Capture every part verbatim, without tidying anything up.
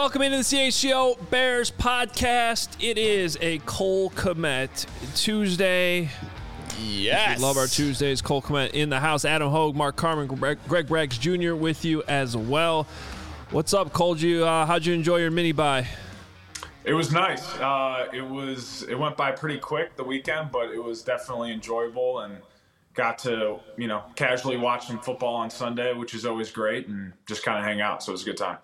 welcome into the C H G O Bears podcast. It is a Cole Kmet Tuesday. Yes. We love our Tuesdays. Cole Kmet in the house. Adam Hogue, Mark Carman, Greg, Greg Braggs Junior with you as well. What's up, Cole? You, uh, how'd you enjoy your mini bye? It was nice. Uh, it was. It went by pretty quick, the weekend, but it was definitely enjoyable, and got to, you know, casually watch some football on Sunday, which is always great, and just kind of hang out. So it was a good time.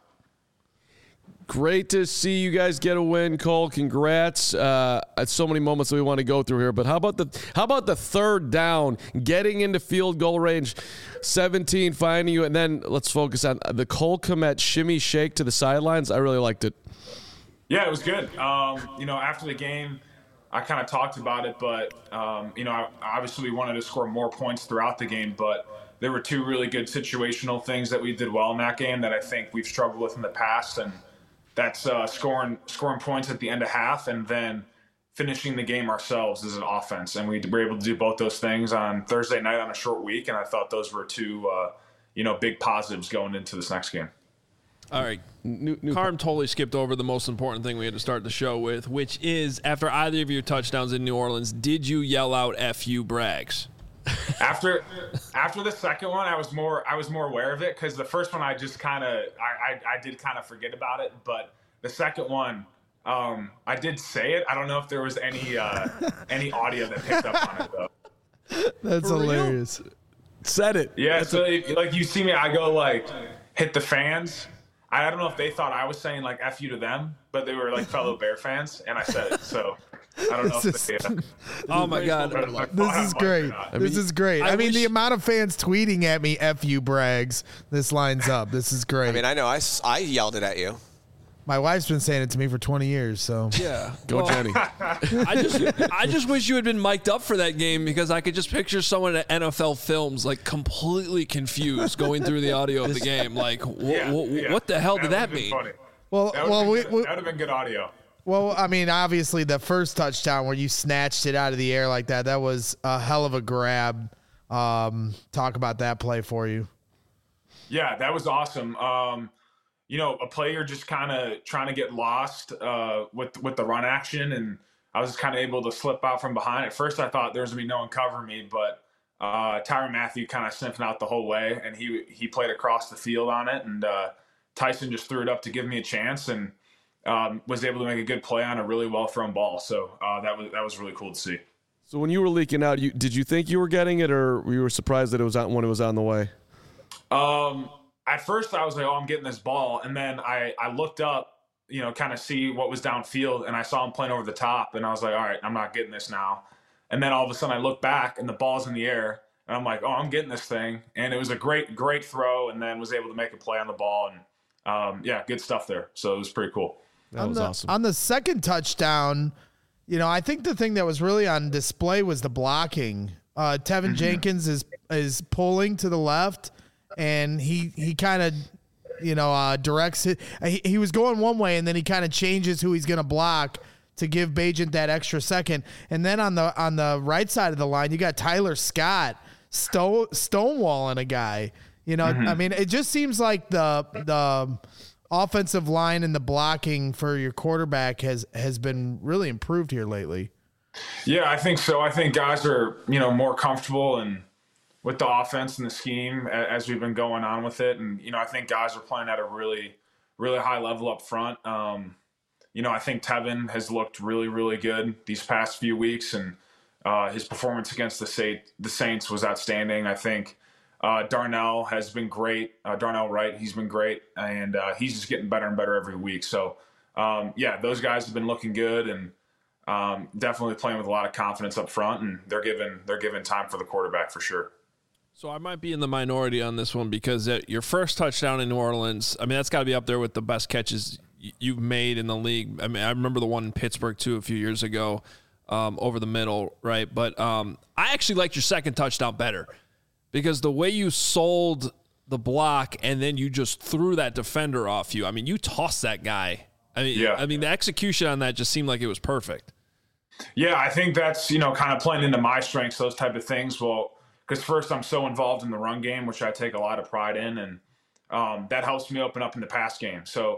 Great to see you guys get a win, Cole. Congrats. Uh, so many moments that we want to go through here, but how about the how about the third down, getting into field goal range, seventeen, finding you, and then let's focus on the Cole Kmet shimmy shake to the sidelines. I really liked it. Yeah, it was good. Um, you know, after the game, I kind of talked about it, but um, you know, obviously we wanted to score more points throughout the game, but there were two really good situational things that we did well in that game that I think we've struggled with in the past, and that's uh, scoring scoring points at the end of half and then finishing the game ourselves as an offense. And we were able to do both those things on Thursday night on a short week, and I thought those were two, uh, you know, big positives going into this next game. All right. New, new Carm totally skipped over the most important thing we had to start the show with, which is, after either of your touchdowns in New Orleans, did you yell out F you Braggs? After after the second one, I was more I was more aware of it, because the first one I just kind of I, I I did kind of forget about it, but the second one um, I did say it. I don't know if there was any uh, any audio that picked up on it though. That's For hilarious. real? Said it. Yeah, That's so a- if, like you see me, I go like hit the fans. I don't know if they thought I was saying like F you to them, but they were like fellow Bear fans, and I said it. So I don't know This if they. is- Uh, Oh, my God. This is great. I This mean, is great. I I, mean, wish- the amount of fans tweeting at me, F you, Braggs, this lines up. This is great. I mean, I know I, s- I yelled it at you. My wife's been saying it to me for twenty years, so. Yeah. Go, Well, Jenny. I just I just wish you had been mic'd up for that game, because I could just picture someone at N F L Films like completely confused going through the audio of the game. Like, wh- yeah, wh- yeah. what the hell did that would've been mean? funny. Well, That would well, we, have we, been good audio. well, I mean, obviously, the first touchdown where you snatched it out of the air like that, that was a hell of a grab. Um, talk about that play for you. Yeah, that was awesome. Um, you know, a player just kind of trying to get lost uh, with with the run action, and I was just kind of able to slip out from behind. At first, I thought there was gonna be no one covering me, but uh, Tyrann Mathieu kind of sniffing out the whole way, and he he played across the field on it, and uh, Tyson just threw it up to give me a chance, and um, was able to make a good play on a really well thrown ball. So uh, that was that was really cool to see. So when you were leaking out, you did you think you were getting it, or you were surprised that it was on when it was on the way? Um, at first I was like, oh, I'm getting this ball. And then I, I looked up, you know, kind of see what was downfield, and I saw him playing over the top, and I was like, all right, I'm not getting this now. And then all of a sudden I look back and the ball's in the air, and I'm like, oh, I'm getting this thing. And it was a great, great throw, and then was able to make a play on the ball. And um, yeah, good stuff there. So it was pretty cool. That on was the, awesome. On the second touchdown, you know, I think the thing that was really on display was the blocking. Uh, Tevin Jenkins is is pulling to the left, and he he kind of, you know, uh, directs it. He, he was going one way, and then he kind of changes who he's going to block to give Bagent that extra second. And then on the on the right side of the line, you got Tyler Scott stone, stonewalling a guy. You know, I mean, it just seems like the the offensive line and the blocking for your quarterback has has been really improved here lately. Yeah, I think so. I think guys are, you know, more comfortable and with the offense and the scheme a- as we've been going on with it. And, you know, I think guys are playing at a really, really high level up front. Um, you know, I think Tevin has looked really, really good these past few weeks, and uh, his performance against the, Sa- the Saints was outstanding. I think uh, Darnell has been great. Uh, Darnell Wright, he's been great, and uh, he's just getting better and better every week. So, um, yeah, those guys have been looking good, and um, definitely playing with a lot of confidence up front, and they're given they're given time for the quarterback for sure. So I might be in the minority on this one, because uh, your first touchdown in New Orleans, I mean, that's got to be up there with the best catches y- you've made in the league. I mean, I remember the one in Pittsburgh, too, a few years ago, um, over the middle, right? But um, I actually liked your second touchdown better, because the way you sold the block and then you just threw that defender off you. I mean, you tossed that guy. I mean, Yeah. I mean, the execution on that just seemed like it was perfect. Yeah, I think that's, you know, kind of playing into my strengths, those type of things. Well, because first I'm so involved in the run game, which I take a lot of pride in, and um, that helps me open up in the pass game. So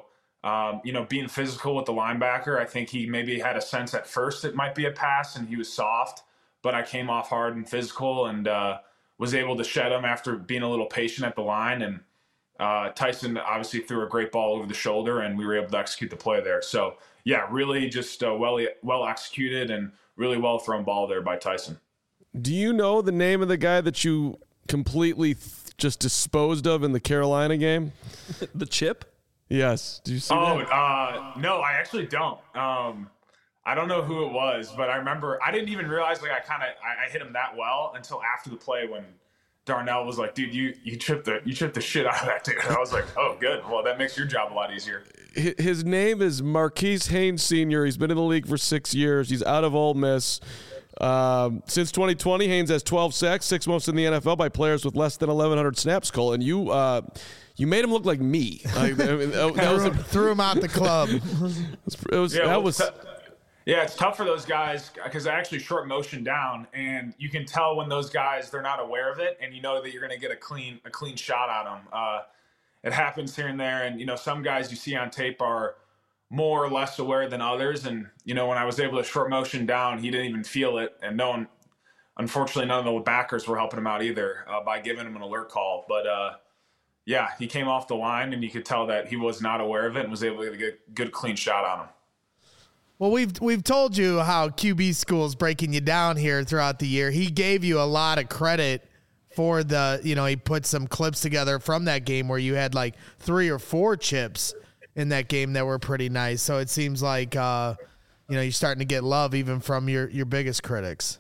um, you know, being physical with the linebacker. I think he maybe had a sense at first it might be a pass, and he was soft, but I came off hard and physical and uh, was able to shed him after being a little patient at the line. And uh, Tyson obviously threw a great ball over the shoulder, and we were able to execute the play there. So, yeah, really just uh, well well executed and really well thrown ball there by Tyson. Do you know the name of the guy that you completely th- just disposed of in the Carolina game? The chip? Yes. Do you see Oh, that? uh, no, I actually don't. Um, I don't know who it was, but I remember I didn't even realize like I kind of I, I hit him that well until after the play when Darnell was like, "Dude, you you tripped the you tripped the shit out of that dude." And I was like, "Oh, good. Well, that makes your job a lot easier." His name is Marquise Haynes Senior He's been in the league for six years. He's out of Ole Miss. Um, since twenty twenty, Haynes has twelve sacks, six most in the N F L by players with less than eleven hundred snaps, Cole. And you uh, you made him look like me. Like, I mean, that, that was a, Threw him out the club. it was, Yeah, that well, was t- yeah, it's tough for those guys because I actually short motion down, and you can tell when those guys they're not aware of it, and you know that you're going to get a clean a clean shot on them. Uh, it happens here and there, and you know some guys you see on tape are more or less aware than others. And you know when I was able to short motion down, he didn't even feel it, and no one, unfortunately, none of the backers were helping him out either uh, by giving him an alert call. But uh, yeah, he came off the line, and you could tell that he was not aware of it and was able to get a good clean shot on him. Well, we've we've told you how Q B School's breaking you down here throughout the year. He gave you a lot of credit for the, you know, he put some clips together from that game where you had like three or four chips in that game that were pretty nice. So it seems like, uh, you know, you're starting to get love even from your, your biggest critics.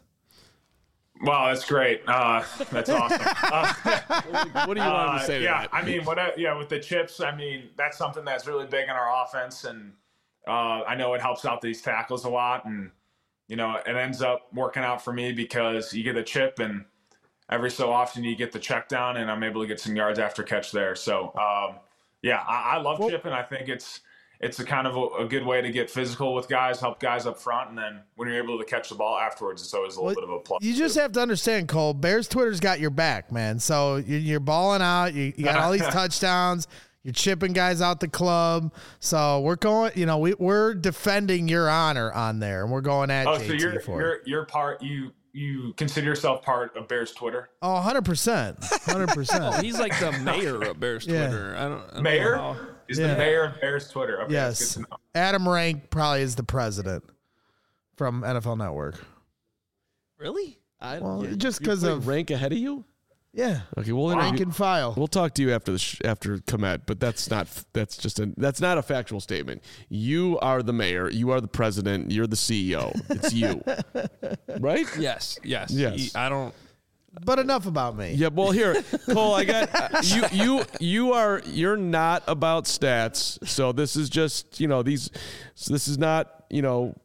Wow, that's great. Uh, that's awesome. Uh, what do you want to say to yeah, that? I mean, what? I, yeah, with the chips, I mean, that's something that's really big in our offense, and uh, I know it helps out these tackles a lot, and you know, it ends up working out for me because you get a chip, and every so often you get the check down, and I'm able to get some yards after catch there. So, um, yeah, I, I love well, chipping. I think it's it's a kind of a, a good way to get physical with guys, help guys up front, and then when you're able to catch the ball afterwards, it's always a little well, bit of a plus. You just have to understand, Cole, Bears Twitter's got your back, man. So you're, you're balling out. You, you got all these touchdowns. You're chipping guys out the club. So we're going, you know, we, we're defending your honor on there, and we're going at oh, J T so you're, for you're, it. you're part, you you consider yourself part of Bears Twitter? Oh, one hundred percent. one hundred percent. Oh, he's like the mayor of Bears Yeah. Twitter. I don't, I don't Mayor? know how. Is Yeah. the mayor of Bears Twitter? Okay, Yes. that's good to know. Adam Rank probably is the president from N F L Network. Really? I, Well, yeah. just You because put of rank ahead of you. yeah, Okay, we'll rank interview, and file. we'll talk to you after the sh- after Komet, but that's not that's just a that's not a factual statement. You are the mayor. You are the president. You're the C E O. It's you, right? Yes, yes. Yes. He- I don't. But enough about me. Yeah. Well, here, Cole, I got uh, you. You you are you're not about stats. So this is just you know these. So this is not you know.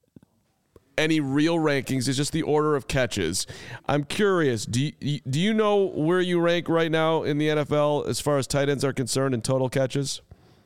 any real rankings. It's just the order of catches. I'm curious. Do you, do you know where you rank right now in the N F L as far as tight ends are concerned in total catches?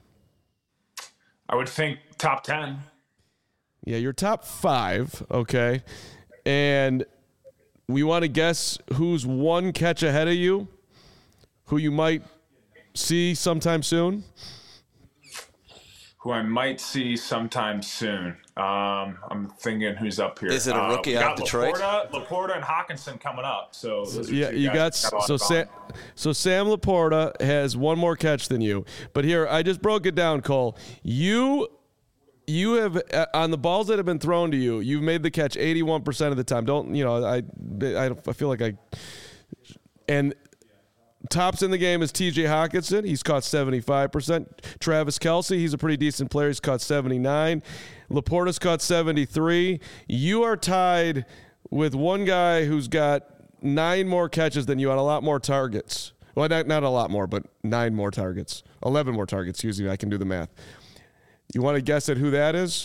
I would think top ten. Yeah, you're top five. Okay, and we want to guess who's one catch ahead of you, who you might see sometime soon. Who I might see sometime soon. Um, I'm thinking who's up here. Is it a Uh, rookie we out got of Detroit? Laporta, Laporta and Hawkinson coming up. So those are Yeah, two you guys got that got a lot so of Sam, volume. so Sam Laporta has one more catch than you. But here, I just broke it down, Cole. You you have uh, on the balls that have been thrown to you, you've made the catch eighty-one percent of the time. Don't you know? I I, I feel like I and. Tops in the game is T J Hawkinson. He's caught seventy-five percent. Travis Kelce, he's a pretty decent player. He's caught seventy-nine. Laporta's caught seventy-three. You are tied with one guy who's got nine more catches than you on a lot more targets. Well, not, not a lot more, but nine more targets. eleven more targets, excuse me. I can do the math. You want to guess at who that is?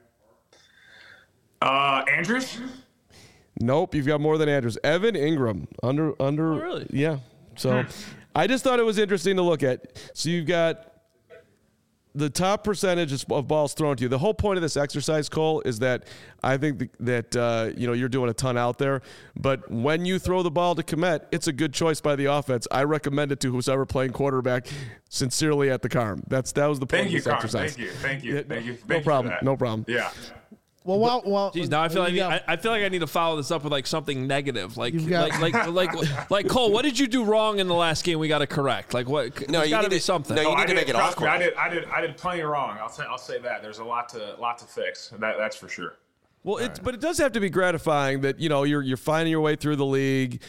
Uh, Andrews? Nope, you've got more than Andrews. Evan Ingram. Under, under. Oh, really? Yeah. So I just thought it was interesting to look at. So you've got the top percentage of balls thrown to you. The whole point of this exercise, Cole, is that I think that uh, you know you're doing a ton out there. But when you throw the ball to Kmet, it's a good choice by the offense. I recommend it to who's ever playing quarterback. Sincerely, at the Carm. That's that was the point Thank of you, this Carm. exercise. Thank you, thank you, Yeah, thank you. no Thank problem. You for that. No problem. Yeah. Well, well, well. Jeez, now I feel like you I, got- I feel like I need to follow this up with like something negative, like You've got- like, like like like Cole. What did you do wrong in the last game? We got to correct. Like what? No, there's you got to need be to- something. no, you Oh, need I to did, make it trust me, awkward. I did, I did, I did plenty wrong. I'll say, I'll say that. There's a lot to, lot to fix. That, that's for sure. Well, it's but it does have to be gratifying that you know you're you're finding your way through the league,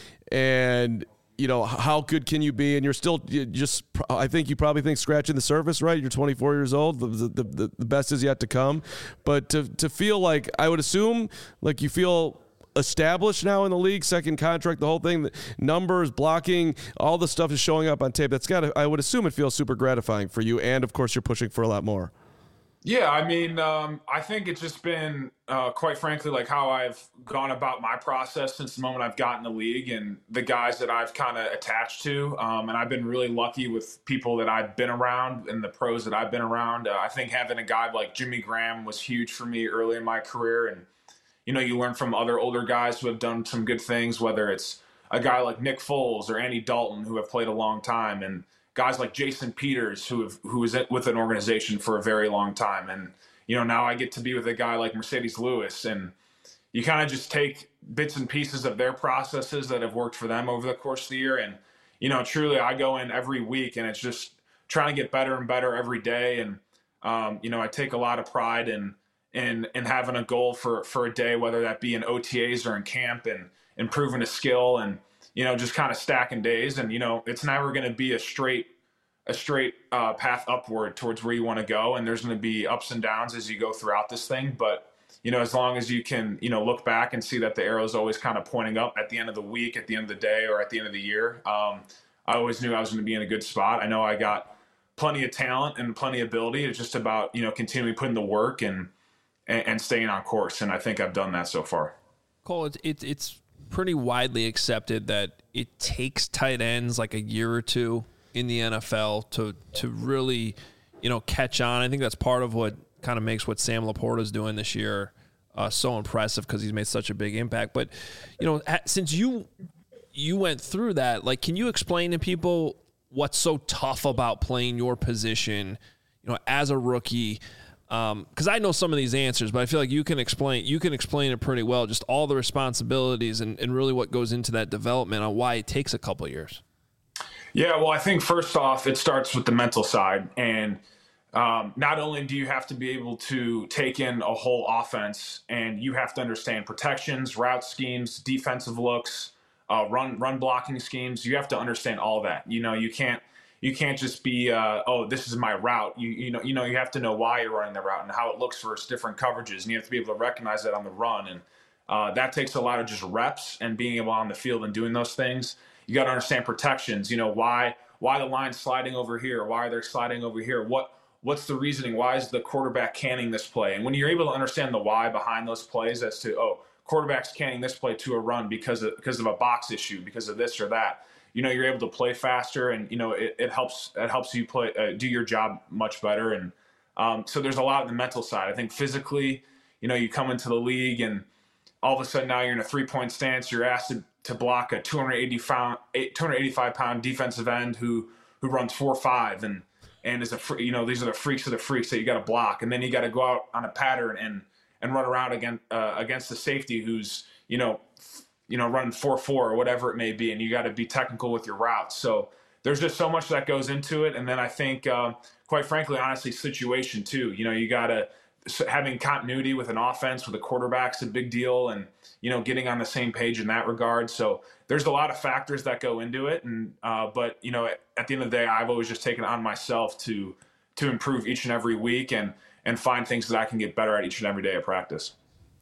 and you know how good can you be, and you're still you just. I think you probably think scratching the surface, right? You're twenty-four years old. The the, the, the best is yet to come, but to to feel like I would assume like you feel established now in the league, second contract, the whole thing, the numbers, blocking, all the stuff is showing up on tape. That's got to. I would assume it feels super gratifying for you, and of course you're pushing for a lot more. Yeah, I mean, um, I think it's just been, uh, quite frankly, like how I've gone about my process since the moment I've gotten the league and the guys that I've kind of attached to. Um, and I've been really lucky with people that I've been around and the pros that I've been around. Uh, I think having a guy like Jimmy Graham was huge for me early in my career. And, you know, you learn from other older guys who have done some good things, whether it's a guy like Nick Foles or Andy Dalton, who have played a long time, and guys like Jason Peters, who have, who was with an organization for a very long time. And, you know, now I get to be with a guy like Mercedes Lewis, and you kind of just take bits and pieces of their processes that have worked for them over the course of the year. And, you know, truly I go in every week and it's just trying to get better and better every day. And, um, you know, I take a lot of pride in, in, in having a goal for, for a day, whether that be in O T As or in camp, and improving a skill and, you know, just kind of stacking days. And, you know, it's never going to be a straight, a straight uh, path upward towards where you want to go. And there's going to be ups and downs as you go throughout this thing. But, you know, as long as you can, you know, look back and see that the arrow is always kind of pointing up at the end of the week, at the end of the day, or at the end of the year, um, I always knew I was going to be in a good spot. I know I got plenty of talent and plenty of ability. It's just about, you know, continuing putting the work and, and, and staying on course. And I think I've done that so far. Cole, it's it's it's pretty widely accepted that it takes tight ends like a year or two in the N F L to to really, you know, catch on. I think that's part of what kind of makes what Sam Laporta's doing this year uh, so impressive, because he's made such a big impact. But, you know, since you you went through that, like, can you explain to people what's so tough about playing your position, you know, as a rookie? Because um, I know some of these answers, but I feel like you can explain you can explain it pretty well, just all the responsibilities and, and really what goes into that development on why it takes a couple of years. Yeah, well, I think first off, it starts with the mental side. And um, not only do you have to be able to take in a whole offense, and you have to understand protections, route schemes, defensive looks, uh, run run blocking schemes. You have to understand all that. You know, you can't you can't just be, uh, oh, this is my route. You you know you know you have to know why you're running the route and how it looks for different coverages, and you have to be able to recognize that on the run. And uh, that takes a lot of just reps and being able on the field and doing those things. You got to understand protections. You know, why why the line's sliding over here? Why are they sliding over here? What what's the reasoning? Why is the quarterback canning this play? And when you're able to understand the why behind those plays, as to, oh, quarterback's canning this play to a run because of because of a box issue, because of this or that, you know, you're able to play faster, and you know it, it helps it helps you play uh, do your job much better. And um, so there's a lot of the mental side. I think physically, you know, you come into the league and all of a sudden now you're in a three point stance. You're asked to, to block a two hundred eighty-five pound defensive end who who runs four five and and is a free, you know, these are the freaks of the freaks that you got to block, and then you got to go out on a pattern and and run around against uh, against the safety who's you know you know running four four or whatever it may be, and you got to be technical with your routes. So there's just so much that goes into it, and then I think uh, quite frankly, honestly, situation too. You know, you got to having continuity with an offense with a quarterback's a big deal, and you know getting on the same page in that regard. So there's a lot of factors that go into it, and uh, but you know at, at the end of the day, I've always just taken it on myself to to improve each and every week and and find things that I can get better at each and every day at practice.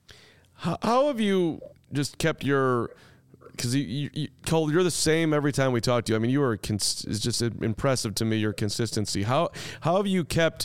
How, how have you just kept your? Because you, you, you, Cole, you're the same every time we talk to you. I mean, you are cons- it's just impressive to me, your consistency. How how have you kept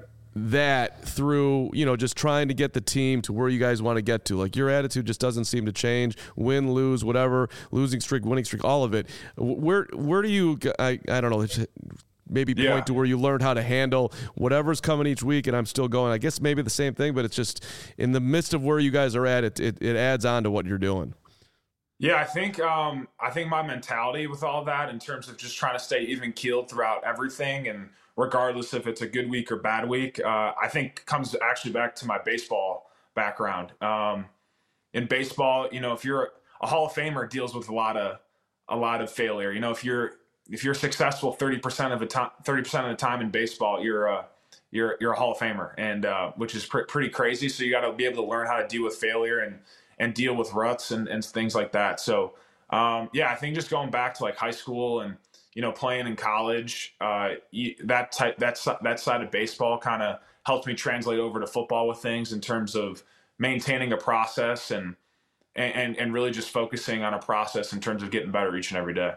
that through, you know, just trying to get the team to where you guys want to get to? Like, your attitude just doesn't seem to change. Win, lose, whatever, losing streak, winning streak, all of it. Where where do you? I I don't know. maybe point Yeah. to where you learned how to handle whatever's coming each week, and I'm still going. I guess maybe the same thing, but it's just in the midst of where you guys are at, it it, it adds on to what you're doing. Yeah, I think um, I think my mentality with all that in terms of just trying to stay even keeled throughout everything, and regardless if it's a good week or bad week, uh, I think comes actually back to my baseball background. Um, in baseball, you know, if you're a Hall of Famer, deals with a lot of a lot of failure. You know, if you're if you're successful thirty percent of the time, thirty percent of the time in baseball, you're a you're you're a Hall of Famer, and uh, which is pr- pretty crazy. So you got to be able to learn how to deal with failure and and deal with ruts and, and things like that. So, um, yeah, I think just going back to like high school and, you know, playing in college, uh, that type, that, that side of baseball kind of helped me translate over to football with things in terms of maintaining a process and, and, and really just focusing on a process in terms of getting better each and every day.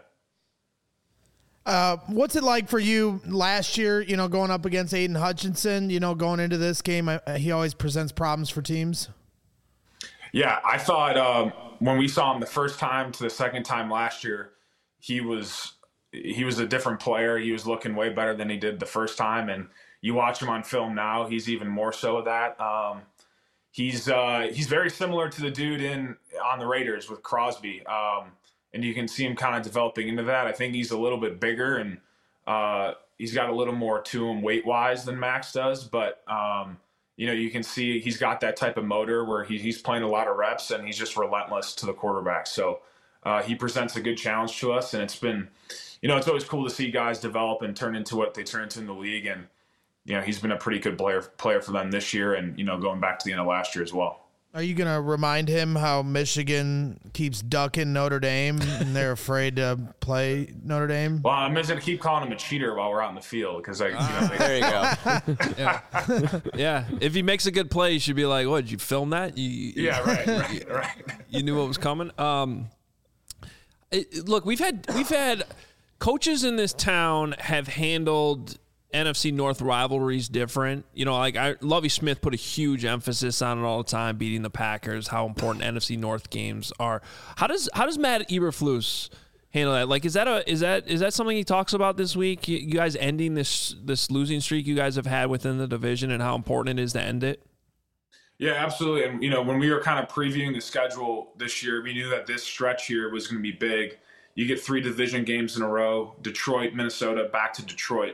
Uh, what's it like for you last year, you know, going up against Aiden Hutchinson, you know, going into this game? I, he always presents problems for teams. Yeah, I thought um, when we saw him the first time to the second time last year, he was he was a different player. He was looking way better than he did the first time, and you watch him on film now, he's even more so of that. Um, he's uh, he's very similar to the dude in on the Raiders with Crosby, um, and you can see him kind of developing into that. I think he's a little bit bigger, and uh, he's got a little more to him weight wise than Max does, but. Um, You know, you can see he's got that type of motor where he, he's playing a lot of reps and he's just relentless to the quarterback. So uh, he presents a good challenge to us. And it's been, you know, it's always cool to see guys develop and turn into what they turn into in the league. And, you know, he's been a pretty good player player for them this year and, you know, going back to the end of last year as well. Are you going to remind him how Michigan keeps ducking Notre Dame and they're afraid to play Notre Dame? Well, I'm just going to keep calling him a cheater while we're out in the field because I, you know, they, There you go. Yeah. yeah. If he makes a good play, you should be like, "What? Did you film that? You, you, yeah, right, right, right. you knew what was coming." Um, it, look, we've had we've had coaches in this town have handled N F C North rivalries different. You know, like I, Lovie Smith put a huge emphasis on it all the time, beating the Packers, how important N F C North games are. How does how does Matt Eberflus handle that? Like, is that a is that is that something he talks about this week? You, you guys ending this this losing streak you guys have had within the division and how important it is to end it? Yeah, absolutely. And, you know, when we were kind of previewing the schedule this year, we knew that this stretch here was going to be big. You get three division games in a row, Detroit, Minnesota, back to Detroit.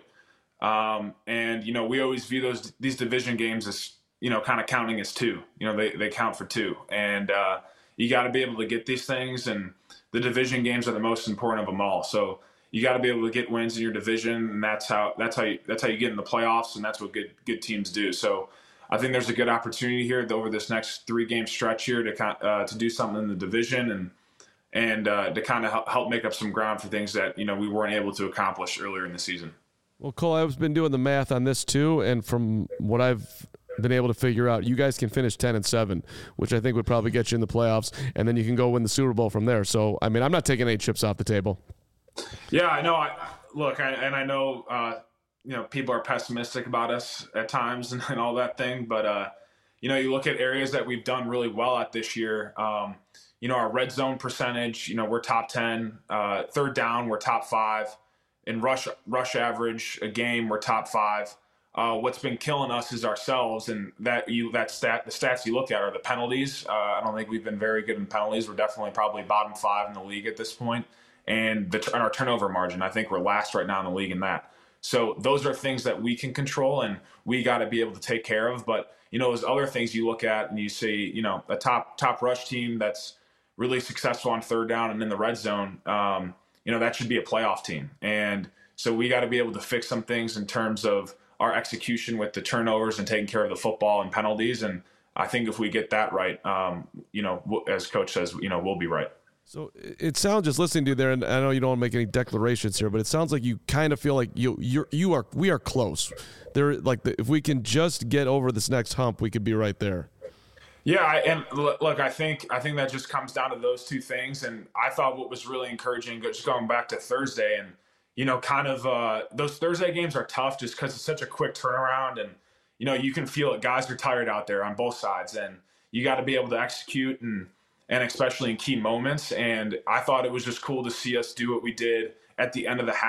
Um, and, you know, we always view those, these division games as, you know, kind of counting as two, you know, they, they count for two and, uh, you got to be able to get these things and the division games are the most important of them all. So you got to be able to get wins in your division and that's how, that's how you, that's how you get in the playoffs. And that's what good, good teams do. So I think there's a good opportunity here over this next three game stretch here to uh, to do something in the division and, and, uh, to kind of help make up some ground for things that, you know, we weren't able to accomplish earlier in the season. Well, Cole, I've been doing the math on this too, and from what I've been able to figure out, you guys can finish ten and seven, which I think would probably get you in the playoffs, and then you can go win the Super Bowl from there. So, I mean, I'm not taking any chips off the table. Yeah, I know. I, look, I, and I know, uh, you know, people are pessimistic about us at times and, and all that thing, but uh, you know, you look at areas that we've done really well at this year. Um, you know, our red zone percentage, you know, we're top ten. Uh, third down, we're top five. In rush rush average a game, we're top five. Uh, what's been killing us is ourselves, and that you that stat the stats you look at are the penalties. Uh, I don't think we've been very good in penalties. We're definitely probably bottom five in the league at this point, and the and our turnover margin, I think we're last right now in the league in that. So those are things that we can control, and we got to be able to take care of. But you know, there's other things you look at, and you see, you know, a top top rush team that's really successful on third down and in the red zone. Um, you know, that should be a playoff team. And so we got to be able to fix some things in terms of our execution with the turnovers and taking care of the football and penalties. And I think if we get that right, um, you know, as coach says, you know, we'll be right. So it sounds, just listening to you there, and I know you don't want to make any declarations here, but it sounds like you kind of feel like you you're you are we are close. There, like the, if we can just get over this next hump, we could be right there. Yeah, and look, I think I think that just comes down to those two things. And I thought what was really encouraging, just going back to Thursday, and you know, kind of uh, those Thursday games are tough just because it's such a quick turnaround, and you know, you can feel it. Guys are tired out there on both sides, and you got to be able to execute, and and especially in key moments. And I thought it was just cool to see us do what we did at the end of the half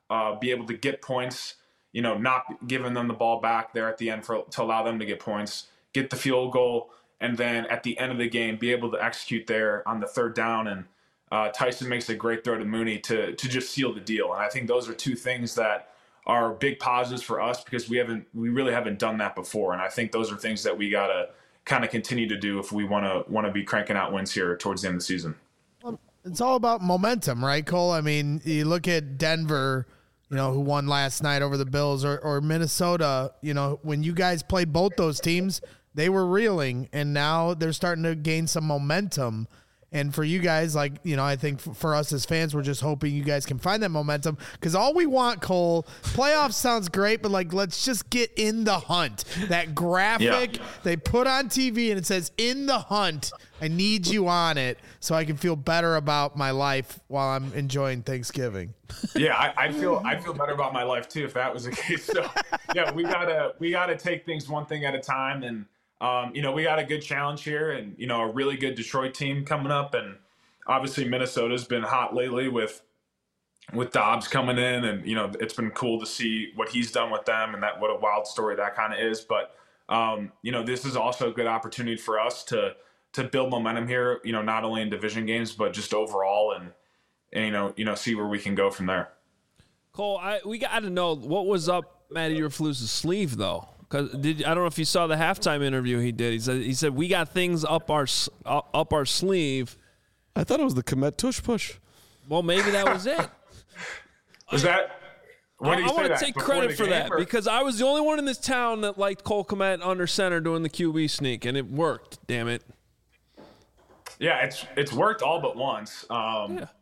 uh, be able to get points, you know, not giving them the ball back there at the end for, to allow them to get points, get the field goal, and then at the end of the game, be able to execute there on the third down. And uh, Tyson makes a great throw to Mooney to to just seal the deal. And I think those are two things that are big positives for us because we haven't we really haven't done that before. And I think those are things that we gotta kind of continue to do if we want to want to be cranking out wins here towards the end of the season. Well, it's all about momentum, right, Cole? I mean, you look at Denver, you know, who won last night over the Bills, or, or Minnesota. You know, when you guys played both those teams, they were reeling, and now they're starting to gain some momentum. And for you guys, like, you know, I think for us as fans, we're just hoping you guys can find that momentum because all we want, Cole, playoffs sounds great, but, like, let's just get in the hunt. That graphic yeah. they put on T V and it says, in the hunt, I need you on it so I can feel better about my life while I'm enjoying Thanksgiving. Yeah, I, I feel I feel better about my life, too, if that was the case. So, yeah, we gotta we gotta take things one thing at a time. And Um, you know, we got a good challenge here and, you know, a really good Detroit team coming up. And obviously Minnesota's been hot lately with with Dobbs coming in. And, you know, it's been cool to see what he's done with them and that what a wild story that kind of is. But, um, you know, this is also a good opportunity for us to to build momentum here, you know, not only in division games, but just overall and, and you know, you know, see where we can go from there. Cole, I, we got to know what was up Matty Eberflus's sleeve, though. Cause did I don't know if you saw the halftime interview he did. He said he said we got things up our up our sleeve. I thought it was the Komet tush push. Well, maybe that was it. Was that? When did I, I want to that? take Before credit for that or? because I was the only one in this town that liked Cole Komet under center doing the Q B sneak, and it worked. Damn it. Yeah, it's it's worked all but once. Um, yeah.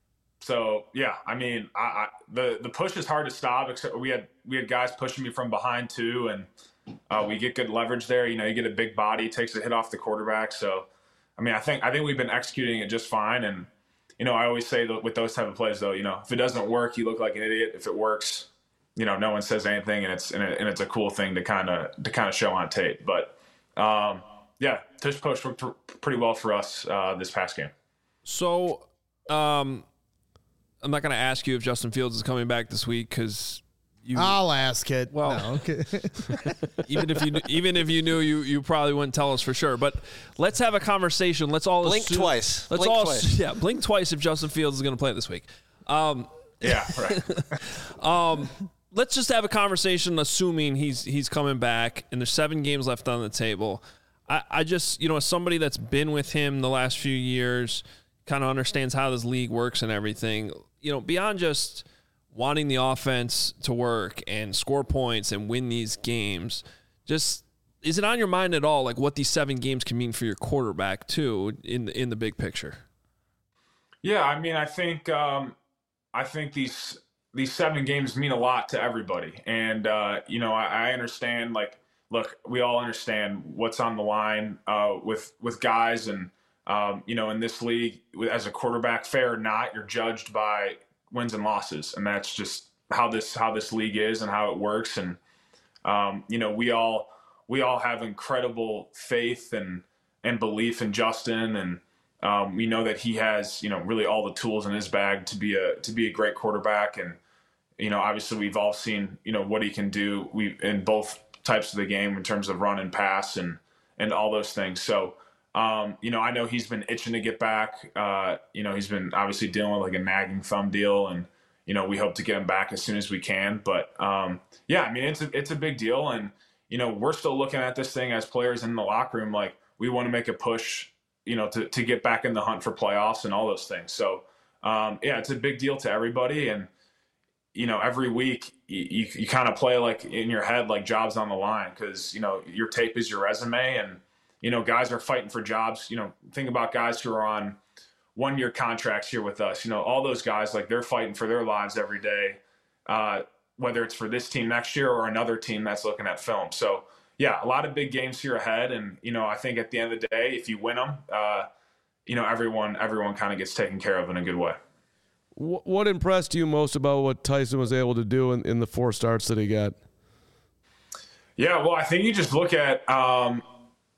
So yeah, I mean, I, I, the the push is hard to stop. Except we had we had guys pushing me from behind too, and uh, we get good leverage there. You know, you get a big body, takes a hit off the quarterback. So, I mean, I think I think we've been executing it just fine. And you know, I always say that with those type of plays, though, you know, if it doesn't work, you look like an idiot. If it works, you know, no one says anything, and it's and, it, and it's a cool thing to kind of to kind of show on tape. But um, yeah, tush push worked pretty well for us uh, this past game. So. Um, I'm not going to ask you if Justin Fields is coming back this week because you. I'll ask it. Well, no, okay. even if you even if you knew, you you probably wouldn't tell us for sure. But let's have a conversation. Let's all blink assume, twice. Let's blink all twice. yeah blink twice if Justin Fields is going to play this week. Um, yeah, right. um, let's just have a conversation, assuming he's he's coming back, and there's seven games left on the table. I, I just you know as somebody that's been with him the last few years, kind of understands how this league works and everything. You know, beyond just wanting the offense to work and score points and win these games, just is it on your mind at all, like what these seven games can mean for your quarterback too, in the, in the big picture? Yeah, I mean, I think um, I think these these seven games mean a lot to everybody, and uh, you know, I, I understand. Like, look, we all understand what's on the line uh, with with guys and. Um, you know, in this league, as a quarterback, fair or not, you're judged by wins and losses, and that's just how this how this league is and how it works. And um, you know, we all we all have incredible faith and and belief in Justin, and um, we know that he has you know really all the tools in his bag to be a to be a great quarterback. And you know, obviously, we've all seen you know what he can do we in both types of the game in terms of run and pass and and all those things. So. Um, you know, I know he's been itching to get back. Uh, you know, he's been obviously dealing with like a nagging thumb deal, and you know, we hope to get him back as soon as we can. But um, yeah, I mean, it's a, it's a big deal, and you know, we're still looking at this thing as players in the locker room, like we want to make a push, you know, to to get back in the hunt for playoffs and all those things. So um, yeah, it's a big deal to everybody, and you know, every week you you, you kind of play like in your head like jobs on the line because you know your tape is your resume and. You know, guys are fighting for jobs. You know, think about guys who are on one-year contracts here with us. You know, all those guys, like, they're fighting for their lives every day, uh, whether it's for this team next year or another team that's looking at film. So, yeah, a lot of big games here ahead. And, you know, I think at the end of the day, if you win them, uh, you know, everyone everyone kind of gets taken care of in a good way. What impressed you most about what Tyson was able to do in, in the four starts that he got? Yeah, well, I think you just look at um, –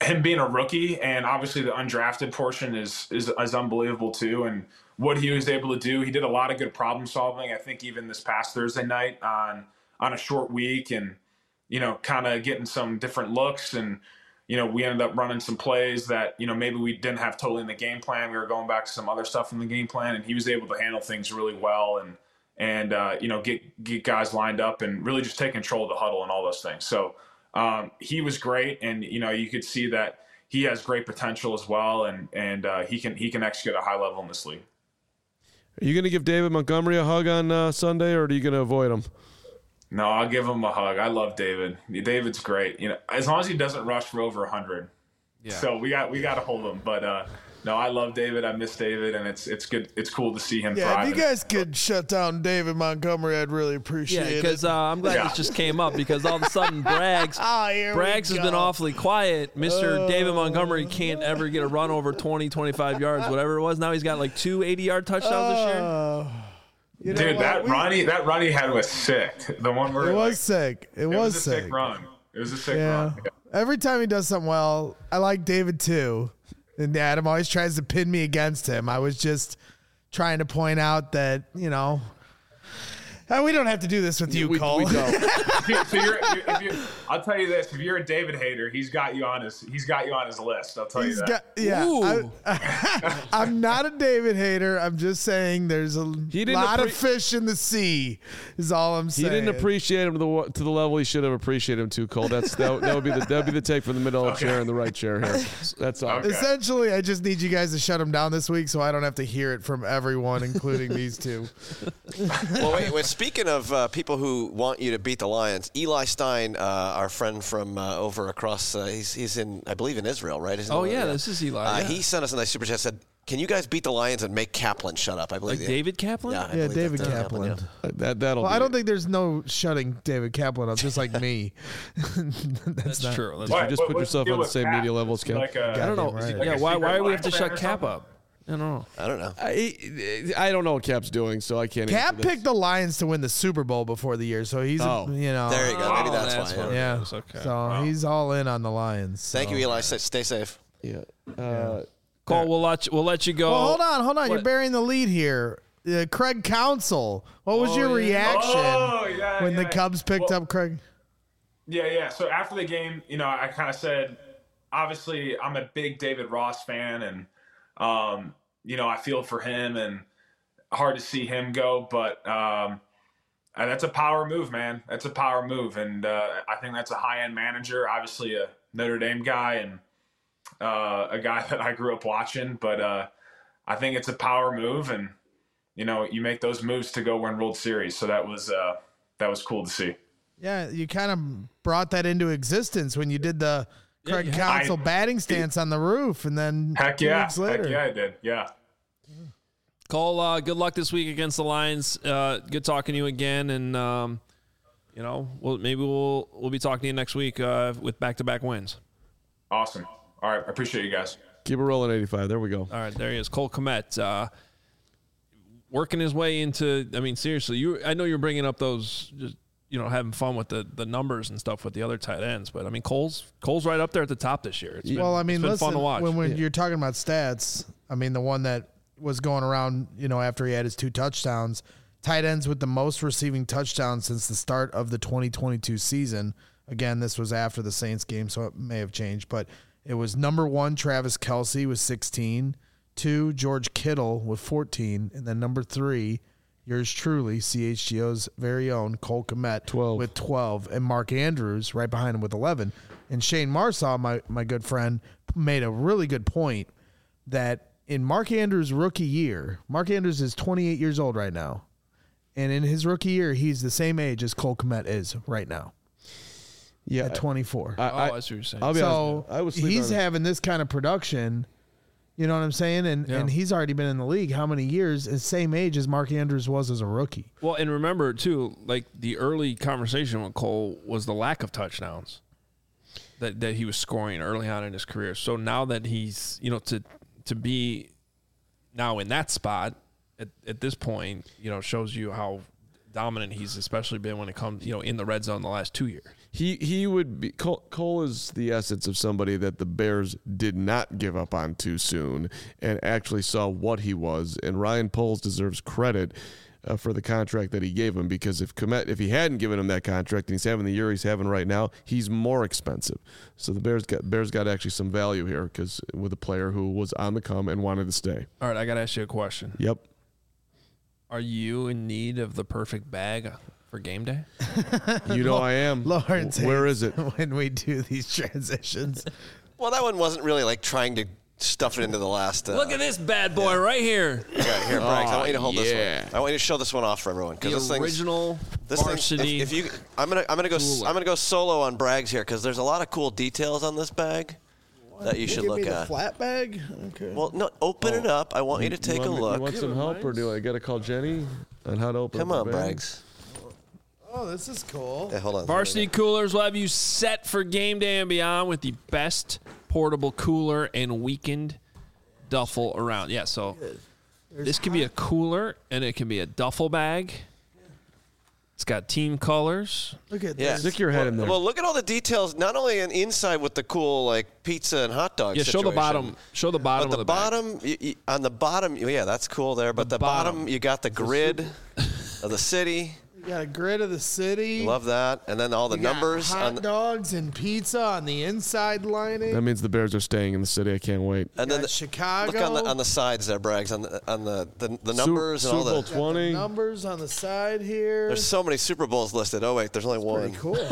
him being a rookie, and obviously the undrafted portion is, is is unbelievable too. And what he was able to do, he did a lot of good problem solving. I think even this past Thursday night on on a short week, and you know, kind of getting some different looks, and you know, we ended up running some plays that you know maybe we didn't have totally in the game plan. We were going back to some other stuff in the game plan, and he was able to handle things really well, and and uh, you know get get guys lined up and really just take control of the huddle and all those things. So. Um, he was great, and you know you could see that he has great potential as well, and and uh, he can he can execute at a high level in this league. Are you going to give David Montgomery a hug on uh, Sunday, or are you going to avoid him? No, I'll give him a hug. I love David. David's great. You know, as long as he doesn't rush for over a hundred. Yeah. So we got we got to hold him, but. Uh, No, I love David. I miss David, and it's it's good. It's cool to see him. Yeah, thrive. if you guys could shut down David Montgomery, I'd really appreciate yeah, it. because uh, I'm glad Yeah. this just came up because all of a sudden Braggs, Oh, here we Braggs has go. been awfully quiet. Mister David Montgomery can't ever get a run over twenty, twenty-five yards, whatever it was. Now he's got like two eighty-yard touchdowns this year. Uh, you know Dude, what? that We- run he that run he had was sick. The one where It was like, sick. It, it was, was a sick. sick run. It was a sick Yeah. run. Yeah. Every time he does something well, I like David too. And Adam always tries to pin me against him. I was just trying to point out that, you know, and we don't have to do this with you, we, Cole. we don't. If you- so you're, if you I'll tell you this: if you're a David hater, he's got you on his he's got you on his list. I'll tell He's you that. got, yeah. Ooh. I, I'm not a David hater. I'm just saying there's a He didn't lot of appre- fish in the sea. Is all I'm He saying. didn't appreciate him to the to the level he should have appreciated him to, Cole. That's that, that would be the that would be the take from the middle Okay. chair and the right chair here. That's all. Okay. Essentially, I just need you guys to shut him down this week, so I don't have to hear it from everyone, including these two. Well, wait, wait. Speaking of uh, people who want you to beat the Lions, Eli Stein, uh, our friend from uh, over across, uh, he's he's in, I believe, in Israel, right? Isn't Oh, he? yeah, this is Eli, Uh, yeah. He sent us a nice super chat. Said, "Can you guys beat the Lions and make Kaplan shut up?" I believe Like the- David Kaplan? Yeah, I Yeah, believe David that, uh, Kaplan. yeah. That that'll. Well, be I don't it. think there's no shutting David Kaplan up, just like me. That's, That's not, true. That's You What- just what- put what's yourself deal on the with same Cap? media level as Is he Cap. Like a, I don't know. Goddamn right. like yeah, a why, why secret do we have to Lions shut fan or Cap something? up? I don't know. I don't know. I, I don't know what Cap's doing, so I can't. Cap answer this. picked the Lions to win the Super Bowl before the year, so he's, a- Oh. you know, There you go. Maybe Oh, that's, that's why. what Yeah. it yeah. is. Okay. So he's all in on the Lions. Thank so. you, Eli. Stay, stay safe. Yeah. Uh, Cole, we'll let you, we'll let you go. Well, hold on, hold on. You're What? burying the lead here. Uh, Craig Counsell. What was Oh, your yeah. reaction Oh, yeah, when the yeah. Cubs picked Well, up Craig? Yeah, yeah. So after the game, you know, I kind of said, obviously, I'm a big David Ross fan, and um, you know, I feel for him, and hard to see him go, but um, uh, that's a power move, man. That's a power move, and uh, I think that's a high-end manager. Obviously, a Notre Dame guy, and uh, a guy that I grew up watching. But uh, I think it's a power move, and you know, you make those moves to go win World Series. So that was uh, that was cool to see. Yeah, you kind of brought that into existence when you did the Craig you have. Counsell I- batting stance on the roof, and then Heck two yeah, weeks later. heck yeah, I did. Yeah. Cole, uh, good luck this week against the Lions. Uh, good talking to you again, and um, you know, we'll, maybe we'll we'll be talking to you next week uh, with back-to-back wins. Awesome. All right. I appreciate you guys. keep it rolling, eighty-five. There we go. All right, there he is, Cole Kmet, uh, working his way into. I mean, seriously, you. I know you're bringing up those, just you know, having fun with the, the numbers and stuff with the other tight ends, but I mean, Cole's Cole's right up there at the top this year. It's been, Well, I mean, it's been listen, fun to watch. when, when you're talking about stats, I mean, the one that was going around, you know, after he had his two touchdowns, tight ends with the most receiving touchdowns since the start of the twenty twenty-two season. Again, this was after the Saints game, so it may have changed, but it was number one, Travis Kelce with sixteen, two, George Kittle with fourteen, and then number three, yours truly, C H G O's very own Cole Kmet twelve. with twelve, and Mark Andrews right behind him with eleven. And Shane Marsaw, my, my good friend, made a really good point that in Mark Andrews' rookie year, Mark Andrews is twenty-eight years old right now. And in his rookie year, he's the same age as Cole Kmet is right now Yeah. at twenty-four. I, oh, I, I see what you're saying. I'll be so honest. I was sleeping he's on it. having this kind of production. You know what I'm saying? And Yeah. and he's already been in the league how many years? The same age as Mark Andrews was as a rookie. Well, and remember too, like the early conversation with Cole was the lack of touchdowns that that he was scoring early on in his career. So now that he's, you know, to to be now in that spot at, at this point, you know, shows you how dominant he's especially been when it comes, you know, in the red zone the last two years. He he would be Cole, Cole is the essence of somebody that the Bears did not give up on too soon and actually saw what he was. And Ryan Poles deserves credit uh, for the contract that he gave him, because if Kmet, if he hadn't given him that contract and he's having the year he's having right now, he's more expensive. So the Bears got Bears got actually some value here, because with a player who was on the come and wanted to stay. All right, I got to ask you a question. Yep. Are you in need of the perfect bag for game day? You know I am. Lawrence, where hates is it? when we do these transitions? Well, that one wasn't really like trying to stuff it into the last. Uh, Look at this bad boy right here. Yeah, here, Braggs. I want you to hold yeah. this one. I want you to show this one off for everyone, because this The thing's original this varsity. thing. If, if you, I'm gonna, I'm gonna go, cooler. I'm gonna go solo on Braggs here, because there's a lot of cool details on this bag that you should Give look me the at. flat bag. Okay. Well, no, open it up. I want you to take you a want, look. You want some help, or do I got to call Jenny on how to open Come up on, the bag? Braggs. oh, this is cool. Yeah, hold on. Varsity Coolers will have you set for game day and beyond with the best portable cooler and weekend duffel around. Yeah, so this can be a cooler and it can be a duffel bag. It's got team colors. Look at Yeah. this. Stick your head well, in there. Well, look at all the details. Not only in inside with the cool like pizza and hot dog. Yeah, show the situation, bottom. Show the bottom But the of the bag. bottom, y y on the bottom, yeah, that's cool there. But the, bottom, bottom. you got the grid of the city. You got a grid of the city. Love that. And then all the You got numbers. hot on the, dogs and pizza on the inside lining. That means the Bears are staying in the city. I can't wait. and then got the, Chicago. Look on the on the sides there, Braggs, on the on the the, the Su- numbers and all Super Bowl the. Got the twenty. numbers on the side here. There's so many Super Bowls listed. Oh wait, there's only one. Pretty cool.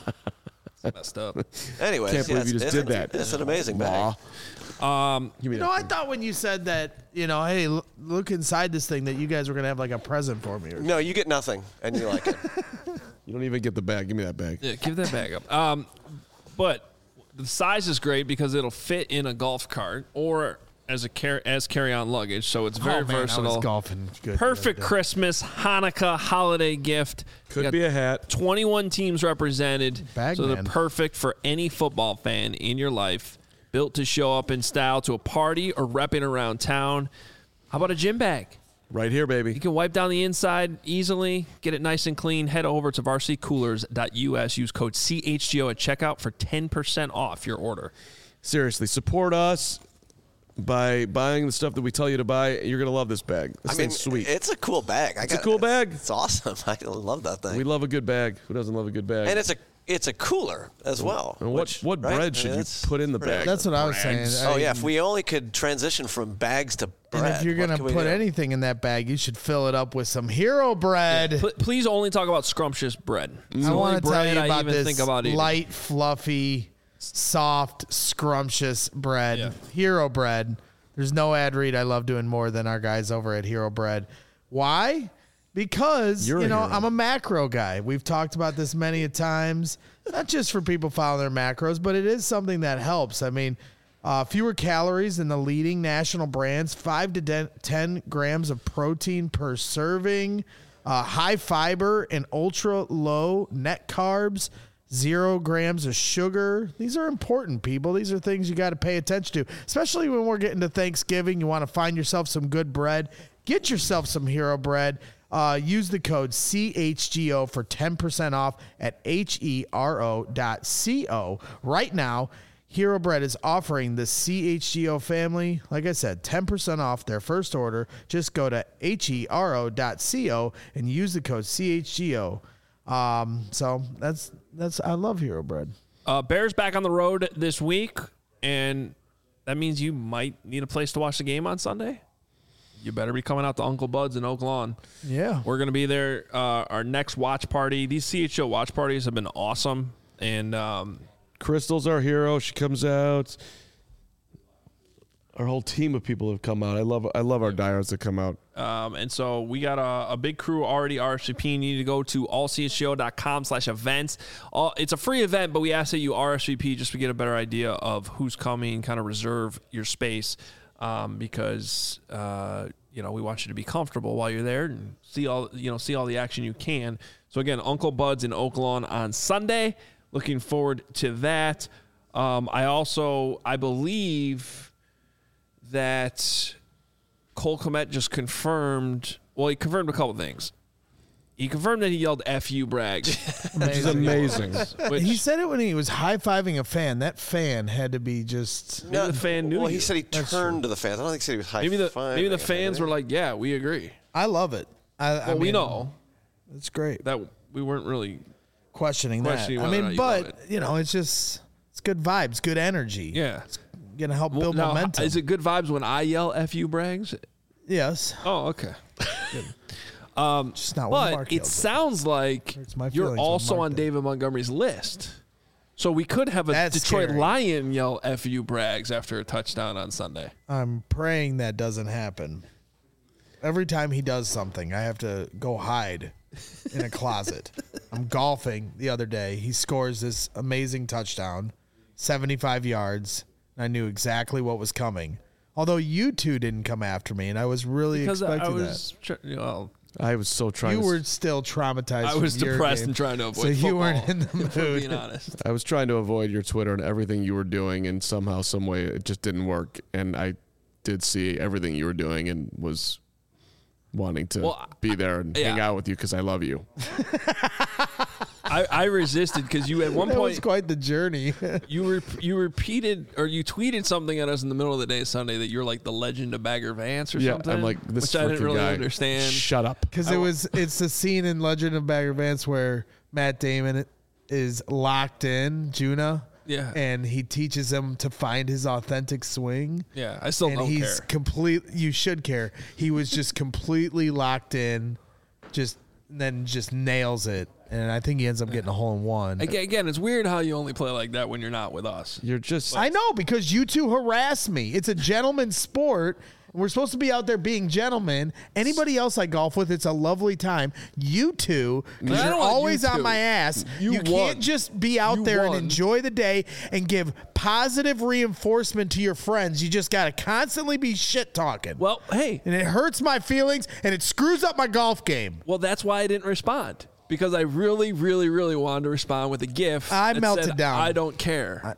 Messed up. Anyways, Can't believe yeah, you just it's, did it's- that. It's an amazing bag. Um, Give me You know, that I thing. thought when you said that, you know, hey, l- look inside this thing, that you guys were gonna have like a present for me. Or No, you get nothing, and you like it. You don't even get the bag. Give me that bag. yeah, give that bag up. Um, but the size is great because it'll fit in a golf cart or as a car- as carry-on luggage. So it's very oh, man, I versatile. was golfing good Perfect the other day. Christmas, Hanukkah, holiday gift. You Could got be a hat. twenty-one teams represented, Bag so man. they're perfect for any football fan in your life. Built to show up in style to a party or repping around town. How about a gym bag? Right here, baby. You can wipe down the inside easily, get it nice and clean. Head over to varsity coolers dot U S. Use code C H G O at checkout for ten percent off your order. Seriously, support us by buying the stuff that we tell you to buy. You're going to love this bag. This I mean, thing's sweet. it's a cool bag. I It's a got- cool bag. It's awesome. I love that thing. We love a good bag. Who doesn't love a good bag? and it's a it's a cooler as well. And what, which, what right? bread I mean, should you that's put in the pretty bag? That's what I was saying. Brags. I Oh yeah, mean, if we only could transition from bags to bread. and if you're what gonna can we put do? anything in that bag, you should fill it up with some hero bread. Pl- please only talk about scrumptious bread. It's I the only want to tell bread you I about even this think about eating. light, fluffy, soft, scrumptious bread. Yeah. Hero bread. There's no ad read I love doing more than our guys over at Hero Bread. Why? Because, You're a you know, hero. I'm a macro guy. We've talked about this many a times, not just for people following their macros, but it is something that helps. I mean, uh, fewer calories than the leading national brands, five to ten, ten grams of protein per serving, uh, high fiber and ultra low net carbs, zero grams of sugar. These are important, people. These are things you got to pay attention to, especially when we're getting to Thanksgiving. You want to find yourself some good bread. Get yourself some Hero Bread. Uh, use the code C H G O for ten percent off at H E R O dot C O. Right now, Hero Bread is offering the C H G O family, like I said, ten percent off their first order. Just go to H E R O dot C O and use the code C H G O. Um, so that's that's I love Hero Bread. Uh, Bears back on the road this week, and that means you might need a place to watch the game on Sunday. You better be coming out to Uncle Bud's in Oak Lawn. Yeah. We're going to be there. Uh, our next watch party. These C H O watch parties have been awesome. And um, Crystal's our hero. She comes out. Our whole team of people have come out. I love I love our diehards that come out. um, and so we got a, a big crew already R S V P. You need to go to all c h g o dot com slash events. All, it's a free event, but we ask that you R S V P just to get a better idea of who's coming, kind of reserve your space. Um, because uh, you know we want you to be comfortable while you're there and see all you know see all the action you can. So again, Uncle Bud's in Oak Lawn on Sunday. Looking forward to that. Um, I also I believe that Cole Kmet just confirmed. Well, he confirmed a couple things. He confirmed that he yelled F you, Braggs. Which is amazing. Which, He said it when he was high-fiving a fan. That fan had to be just... Maybe the fan knew Well, you. he said he turned to the fans. I don't think he said he was high maybe the fiving. maybe the fans were like, yeah, we agree. I love it. I, Well, I we mean, know It's great. that we weren't really. Questioning, questioning that. I whether or mean, not you love but, it. you know, it's just... It's good vibes, good energy. Yeah. Going to help Well, build now, momentum. is it good vibes when I yell F you, Braggs? Yes. Oh, okay. Just not when But Mark it yells sounds like Hurts my you're feelings when also Mark on did. David Montgomery's list. So we could have a That's Detroit scary. Lion yell F you, Braggs after a touchdown on Sunday. I'm praying that doesn't happen. Every time he does something, I have to go hide in a closet. I'm golfing the other day. He scores this amazing touchdown, seventy-five yards. And I knew exactly what was coming. Although you two didn't come after me, and I was really Because I expecting was, tr- you know, I was so that. trying. You to, were still traumatized. I was from your depressed game, and trying to avoid so you football, weren't in the if we're mood. being honest. I was trying to avoid your Twitter and everything you were doing, and somehow, some way, it just didn't work. And I did see everything you were doing, and was wanting to Well, be there and yeah. hang out with you because I love you. I, I resisted because you at one That was point quite the journey. you re- you repeated or you tweeted something at us in the middle of the day Sunday that you're like the legend of Bagger Vance or Yeah, something. I'm like this which I didn't freaking really guy. understand. Shut up. Because it was, it's the scene in Legend of Bagger Vance where Matt Damon is locked in Juna, Yeah. and he teaches him to find his authentic swing. Yeah, I still and don't he's care. complete. You should care. He was just completely locked in, just and then just nails it, and I think he ends up getting a hole in one. Again, again, it's weird how you only play like that when you're not with us. You're just. I know, because you two harass me. It's a gentleman's sport. We're supposed to be out there being gentlemen. Anybody else I golf with, it's a lovely time. You two, because I you're don't want you always on two. my ass. You You, won. can't just be out You there won. and enjoy the day and give positive reinforcement to your friends. You just got to constantly be shit talking. Well, hey, And it hurts my feelings, and it screws up my golf game. well, that's why I didn't respond because I really, really, really wanted to respond with a GIF. I that melted said, down. I don't care.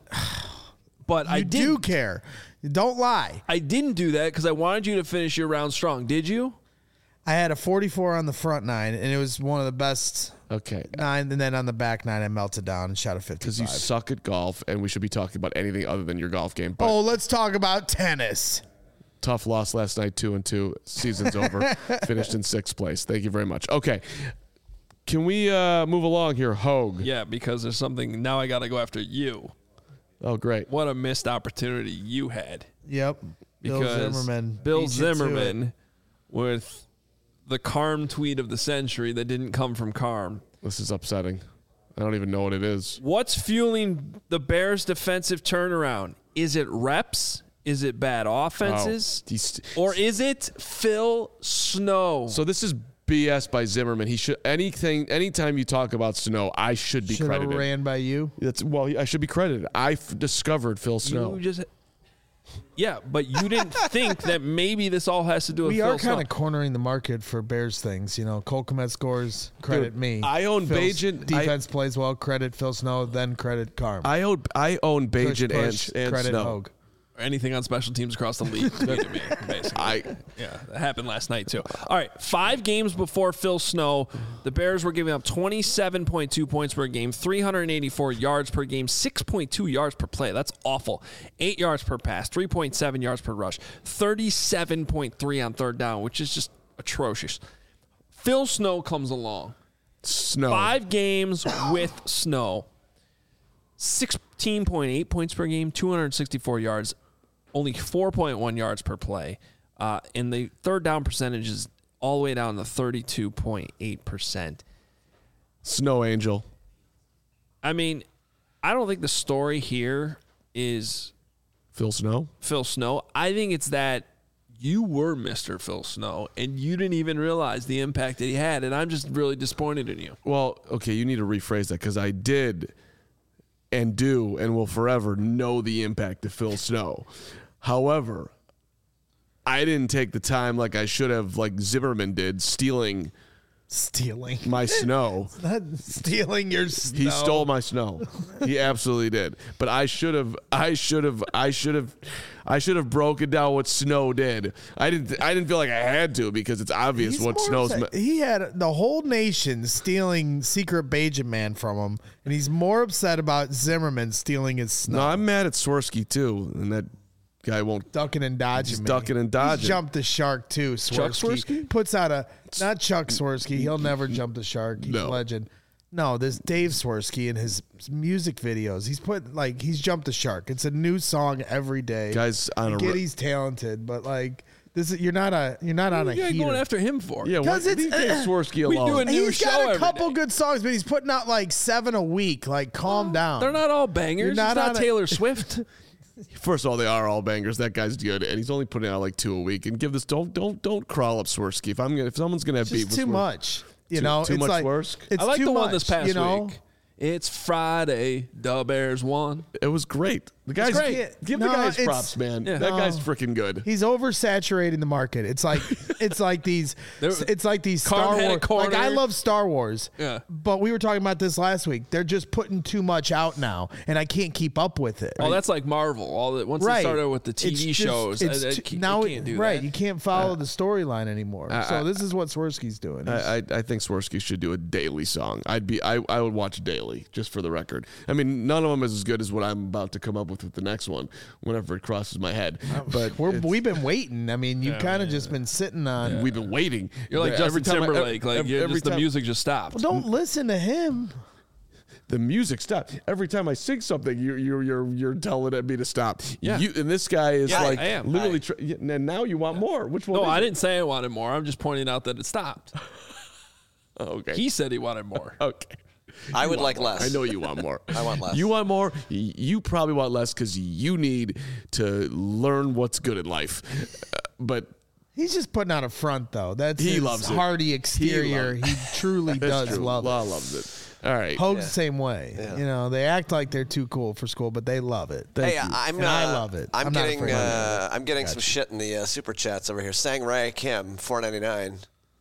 But I You did. do care. Don't lie. I didn't do that because I wanted you to finish your round strong. Did you? I had a forty-four on the front nine, and it was one of the best Okay. nine. And then on the back nine, I melted down and shot a Because you fifty-five. suck at golf, and we should be talking about anything other than your golf game. But Oh, let's talk about tennis. tough loss last night, two and two. Season's over. Finished in sixth place. Thank you very much. Okay. Can we uh, move along here, Hogue? Yeah, because there's something. Now I got to go after you. Oh, great. What a missed opportunity you had. Yep. Bill Because Zimmerman. Bill beat you to it. Zimmerman with the Carm tweet of the century that didn't come from Carm. This is upsetting. I don't even know what it is. What's fueling the Bears' defensive turnaround? Is it reps? Is it bad offenses? Oh, he's- Or is it Phil Snow? So this is B S by Zimmerman. He should anything. Anytime you talk about Snow, I should be Should have credited. ran by you. That's well, I should be credited. I f- discovered Phil Snow. You just, yeah, but you didn't think that maybe this all has to do with We Phil are kind Snow. of cornering the market for Bears things. You know, Cole Kmet scores, credit Dude, me. I own Phil's Bajan- Defense plays well, credit Phil Snow, then credit Carm. I own I own Push, Bajan push, and, and credit Snow. Hogue. Anything on special teams across the league. tweeted me, basically. I Yeah, that happened last night, too. All right, five games before Phil Snow, the Bears were giving up twenty-seven point two points per game, three hundred eighty-four yards per game, six point two yards per play. That's awful. Eight yards per pass, three point seven yards per rush, thirty-seven point three on third down, which is just atrocious. Phil Snow comes along. Snow. Five games with Snow. sixteen point eight points per game, two hundred sixty-four yards, only four point one yards per play. Uh, and the third down percentage is all the way down to thirty-two point eight percent. Snow Angel. I mean, I don't think the story here is Phil Snow. Phil Snow. I think it's that you were Mister Phil Snow and you didn't even realize the impact that he had. And I'm just really disappointed in you. Well, okay, you need to rephrase that because I did and do and will forever know the impact of Phil Snow. However, I didn't take the time like I should have, like Zimmerman did, stealing Stealing my snow. Not stealing your snow. He stole my snow. He absolutely did. But I should have. I should have. I should have. I should have broken down what snow did. I didn't. I didn't feel like I had to because it's obvious He's what more snow's. upset. Me- he had the whole nation stealing Secret Bajan Man from him, and he's more upset about Zimmerman stealing his snow. no, I'm mad at Swirsky too, and that guy won't. Ducking and dodging. He's me. ducking and dodging. He's jumped the shark too. Swirsky. Chuck Swirsky? Puts out a not Chuck Swirsky. He'll never jump the shark. He's No. a legend. No, there's Dave Swirsky in his music videos. He's put like he's jumped the shark. It's a new song every day. Guys on I a get ro- he's talented, but like this is you're not a you're not on a What are you heater. going after him for? Yeah, what, 'Cause it's- leave Dave uh, Swirsky we alone. do a new He's show got a every couple day. good songs, but he's putting out like seven a week. Like, calm down. They're not all bangers. You're not it's not on a- Taylor Swift. First of all, they are all bangers. That guy's good, and he's only putting out like two a week. And give this don't don't don't crawl up Swirsky. If I'm gonna if someone's gonna have beef Just with too Swir- much. You Too- know, too it's much like Swirsky? it's I like too the much, one this past you know? week. It's Friday. The Bears won. It was great. The guy's great. great. Give No, the guys it's- props, man. Yeah. That No. guy's freaking good. He's oversaturating the market. It's like it's like these There- it's like these Star Carm had a Wars. Like I corner. love Star Wars. Yeah. But we were talking about this last week. They're just putting too much out now, and I can't keep up with it. Oh, that's like Marvel. All that once right. they started with the T V It's just- shows, it's I, I too- can't, now I it- can't do right. that. You can't follow the storyline anymore. I- so I- this is what Swirsky's doing. He's- I, I I think Swirsky should do a daily song. I'd be I, I would watch daily just for the record. I mean, none of them is as good as what I'm about to come up with with the next one. Whenever it crosses my head, but We're, it's- we've been waiting. I mean, you've kind of just been sitting on. we've been waiting. You're like Every Justin time I- Timberlake. like every- you're every just, the time- music just stopped. Well, don't listen to him. the music stopped. Every time I sing something, you you're you're you're telling me to stop. Yeah. You, and this guy is Yeah, like I am. literally. I- Tr- yeah, and now you want more. Which one? no, is I it? didn't say I wanted more. I'm just pointing out that it stopped. Oh, okay. He said he wanted more. okay. I would like less. I know you want more. I want less. You want more. Y- You probably want less because you need to learn what's good in life. Uh, but He's just putting out a front, though. That's He his loves it. hardy exterior. loves- He, truly that's does true. love Law it. loves it. All right. Hogue's the same way. You know, they act like they're too cool for school, but they love it. Thank Hey, you. I'm. And uh, I love it. I'm, I'm not getting. afraid of Uh, I'm getting some shit in the uh, super chats over here. Sang Ray Kim, four ninety nine.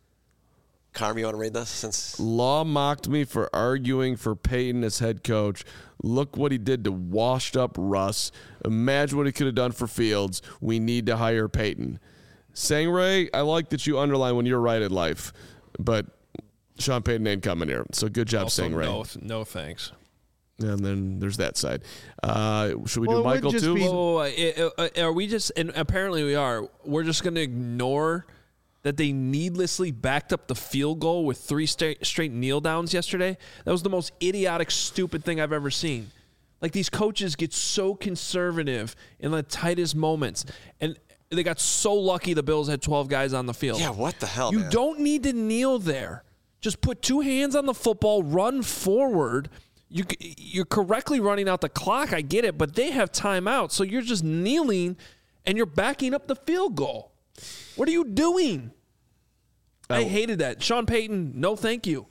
Carm, you want to read this? Since Law mocked me for arguing for Peyton as head coach. Look what he did to washed up Russ. Imagine what he could have done for Fields. We need to hire Peyton. Sangray, I like that you underline when you're right in life, but Sean Payton ain't coming here. So good job, Also, Sangray. no, no thanks. And then there's that side. Uh, should we Well, it do would Michael just too? be- Whoa, whoa, whoa, whoa. Uh, uh, Are we just, and apparently we are, we're just going to ignore that they needlessly backed up the field goal with three straight, straight kneel downs yesterday? That was the most idiotic, stupid thing I've ever seen. Like, these coaches get so conservative in the tightest moments. And they got so lucky the Bills had twelve guys on the field. yeah, what the hell, You man? don't need to kneel there. Just put two hands on the football, run forward. You, you're correctly running out the clock. I get it, but they have timeout, so you're just kneeling and you're backing up the field goal. What are you doing? I Oh. hated that. Sean Payton, no thank you.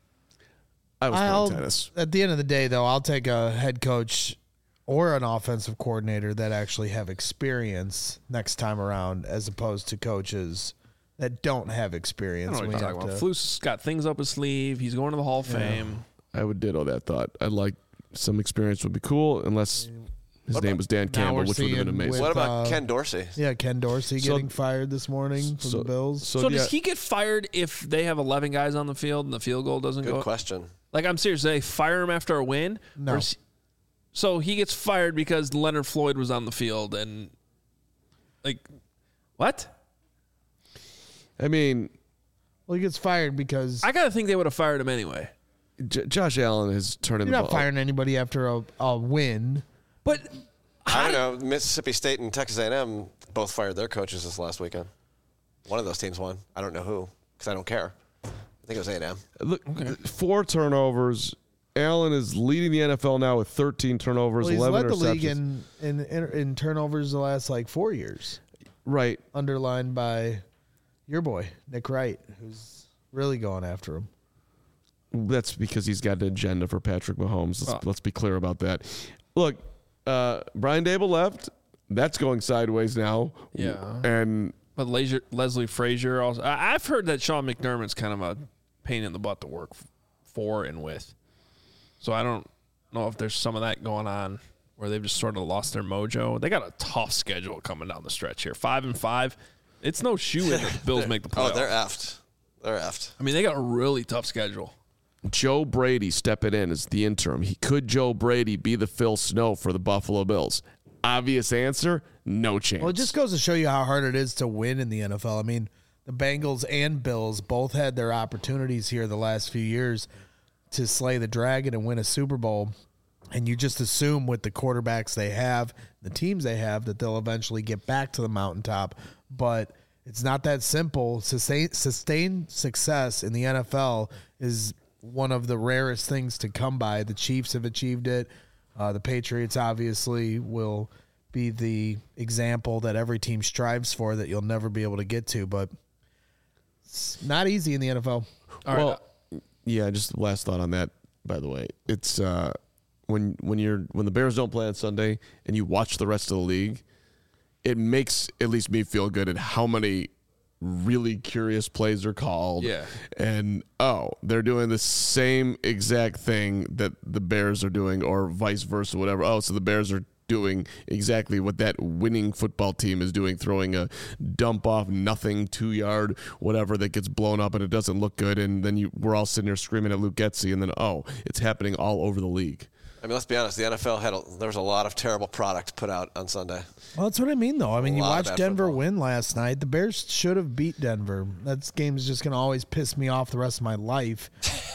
I was I'll, playing tennis. at the end of the day, though, I'll take a head coach or an offensive coordinator that actually have experience next time around, as opposed to coaches that don't have I experience. don't know what We you're have talking about. to- Flus got things up his sleeve. He's going to the Hall of Fame. I would ditto that thought. I'd like some experience would be cool, unless his name was Dan Now Campbell, we're which would have been seeing amazing. with- What about uh, Ken Dorsey? Yeah, Ken Dorsey So- getting fired this morning from so- the Bills. so So yeah, does he get fired if they have eleven guys on the field and the field goal doesn't Good go? question. Like, I'm serious. They fire him after a win? No. Or is- So he gets fired because Leonard Floyd was on the field and, like, what? I mean, Well, he gets fired because I got to think they would have fired him anyway. J- Josh Allen is turning you're the not ball. firing anybody after a, a win. But I don't know. Mississippi State and Texas A and M both fired their coaches this last weekend. One of those teams won. I don't know who because I don't care. I think it was A and M. Look, four turnovers. Allen is leading the N F L now with thirteen turnovers, Well, he's eleven led the interceptions. league in, in, in, in turnovers the last like four years, right. underlined by your boy, Nick Wright, who's really going after him. That's because he's got an agenda for Patrick Mahomes. Let's, Oh. let's be clear about that. Look, uh, Brian Dable left. That's going sideways now. Yeah. And but Leslie, Leslie Frazier also. I, I've heard that Sean McDermott's kind of a pain in the butt to work for and with. So I don't know if there's some of that going on where they've just sort of lost their mojo. They got a tough schedule coming down the stretch here. Five and five. It's no shoe in that the Bills make the playoffs. Oh, they're effed. They're effed. I mean, they got a really tough schedule. Joe Brady stepping in as the interim. He could Joe Brady be the Phil Snow for the Buffalo Bills? Obvious answer, no chance. Well, it just goes to show you how hard it is to win in the N F L. I mean, the Bengals and Bills both had their opportunities here the last few years to slay the dragon and win a Super Bowl. And you just assume with the quarterbacks they have, the teams they have, that they'll eventually get back to the mountaintop. But it's not that simple. Sustain, sustained success in the N F L is one of the rarest things to come by. The Chiefs have achieved it. Uh, the Patriots obviously will be the example that every team strives for that you'll never be able to get to. But it's not easy in the N F L. All well, right. yeah, just last thought on that, by the way. It's uh, when when you're when the Bears don't play on Sunday and you watch the rest of the league, it makes at least me feel good at how many really curious plays are called. Yeah. And, oh, they're doing the same exact thing that the Bears are doing or vice versa, whatever. Oh, so the Bears are doing exactly what that winning football team is doing, throwing a dump off nothing two-yard whatever that gets blown up and it doesn't look good. And then you we're all sitting there screaming at Luke Getsy, and then, oh, it's happening all over the league. I mean, let's be honest. The N F L had a, there was a lot of terrible product put out on Sunday. Well, that's what I mean, though. I mean, A you lot of watched bad Denver football. win last night. The Bears should have beat Denver. That game is just going to always piss me off the rest of my life.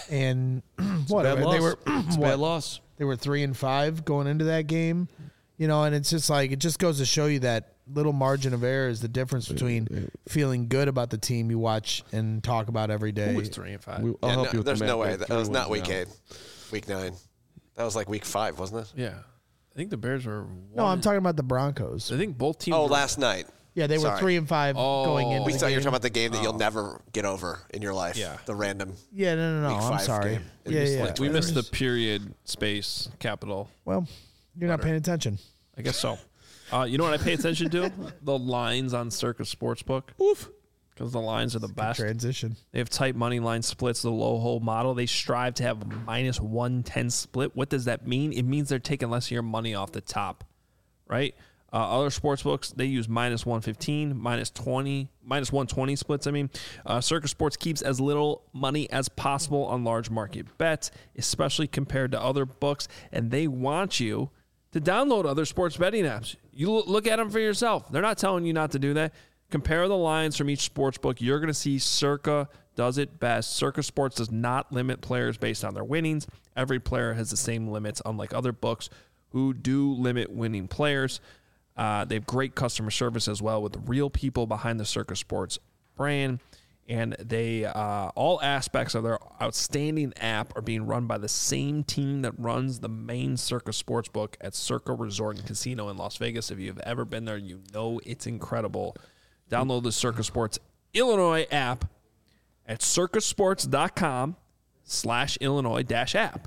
And whatever. Bad They loss. were It's a what? bad loss. They were three and five going into that game. You know, and it's just like it just goes to show you that little margin of error is the difference between feeling good about the team you watch and talk about every day. Who was three and five? We, I'll Yeah, help no, you with there's the no math. way. We That, have was three not wins week now. eight, week nine. That was like week five, wasn't it? Yeah. I think the Bears were one No, I'm and- talking about the Broncos. I think both teams Oh, were, last night. Yeah, they were Sorry. three and five Oh. going into We the thought you were game. talking about the game that you'll never get over in your life. Yeah. The random. Yeah, no, no, no. Week I'm five sorry. game. we Yeah, missed, yeah. like, we missed the There's- period, space, capital. Well, you're not paying attention. I guess so. Uh, you know what I pay attention to? The lines on Circus Sportsbook. Oof. Because the lines are the best. Transition. They have tight money line splits, the low hold model. They strive to have a minus one ten split. What does that mean? It means they're taking less of your money off the top, right? Uh, other sports books, they use minus one fifteen, minus twenty, minus one twenty splits. I mean, uh, Circus Sports keeps as little money as possible on large market bets, especially compared to other books. And they want you to download other sports betting apps. You l- look at them for yourself. They're not telling you not to do that. Compare the lines from each sports book. You're going to see Circa does it best. Circa Sports does not limit players based on their winnings. Every player has the same limits, unlike other books who do limit winning players. Uh, they have great customer service as well with the real people behind the Circa Sports brand. And they uh, all aspects of their outstanding app are being run by the same team that runs the main Circa Sportsbook at Circa Resort and Casino in Las Vegas. If you've ever been there, you know it's incredible. Download the Circa Sports Illinois app at circusports.com slash Illinois dash app.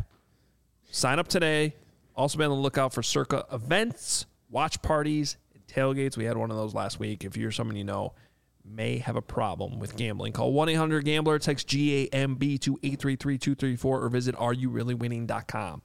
Sign up today. Also be on the lookout for Circa events, watch parties, and tailgates. We had one of those last week. If you're someone you know may have a problem with gambling, call one eight hundred gambler, text G A M B to eight three three two three four, or visit are you really winning dot com.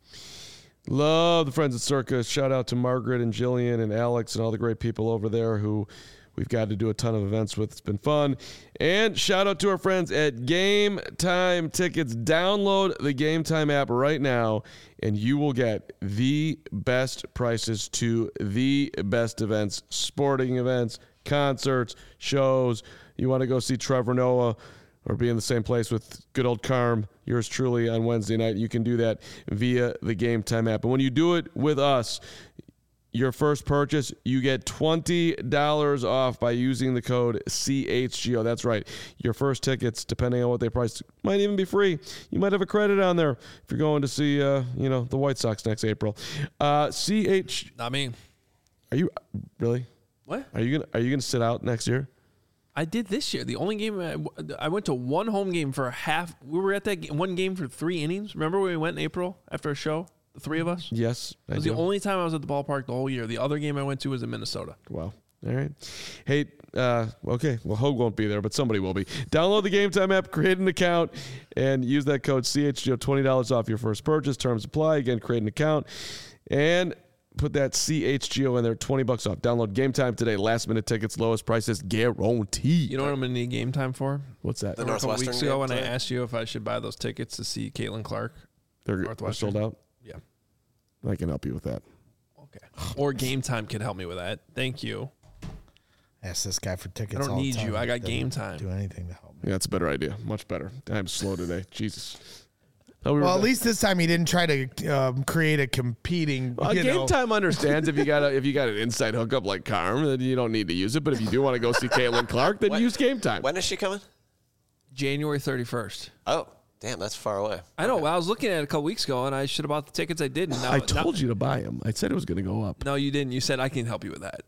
Love the friends at Circa. Shout out to Margaret and Jillian and Alex and all the great people over there who we've got to do a ton of events with. It's been fun. And shout out to our friends at Game Time Tickets. Download the Game Time app right now, and you will get the best prices to the best events, sporting events, concerts, shows. You want to go see Trevor Noah or be in the same place with good old Carm, yours truly, on Wednesday night, you can do that via the Game Time app. And when you do it with us, your first purchase, you get twenty dollars off by using the code C H G O. That's right. Your first tickets, depending on what they price, might even be free. You might have a credit on there if you're going to see, uh, you know, the White Sox next April. Uh, C H. Not me. Are you really? What? Are you gonna Are you gonna sit out next year? I did this year. The only game I, I went to one home game for a half. We were at that ga- one game for three innings. Remember when we went in April after a show? The three of us. Yes, It I was do. the only time I was at the ballpark the whole year. The other game I went to was in Minnesota. Wow. All right. Hey, uh, okay. Well, Hogue won't be there, but somebody will be. Download the Game Time app, create an account, and use that code C H G O, twenty dollars off your first purchase. Terms apply. Again, create an account and put that C H G O in there, twenty bucks off. Download Game Time today. Last minute tickets, lowest prices guaranteed. You know what I'm going to need game time for? What's that? The A couple Northwestern weeks ago when I game? asked you if I should buy those tickets to see Caitlin Clark. They're, they're Northwestern. sold out? Yeah. I can help you with that. Okay. Or game time could help me with that. Thank you. Ask this guy for tickets. I don't all the need time. you. I got Doesn't game time. Do anything to help me. Yeah, that's a better idea. Much better. I'm slow today. Jesus. Oh, we were Well, at done. least this time he didn't try to um, create a competing. Well, you Game know, Time understands if you got a, if you got an inside hookup like Carm, then you don't need to use it. But if you do want to go see Caitlin Clark, then When- use Game Time. When is she coming? January thirty-first. Oh, damn, that's far away. I know. I was looking at it a couple weeks ago, and I should have bought the tickets. I didn't. Now, I told you to buy them. I said it was going to go up. No, you didn't. You said I can help you with that.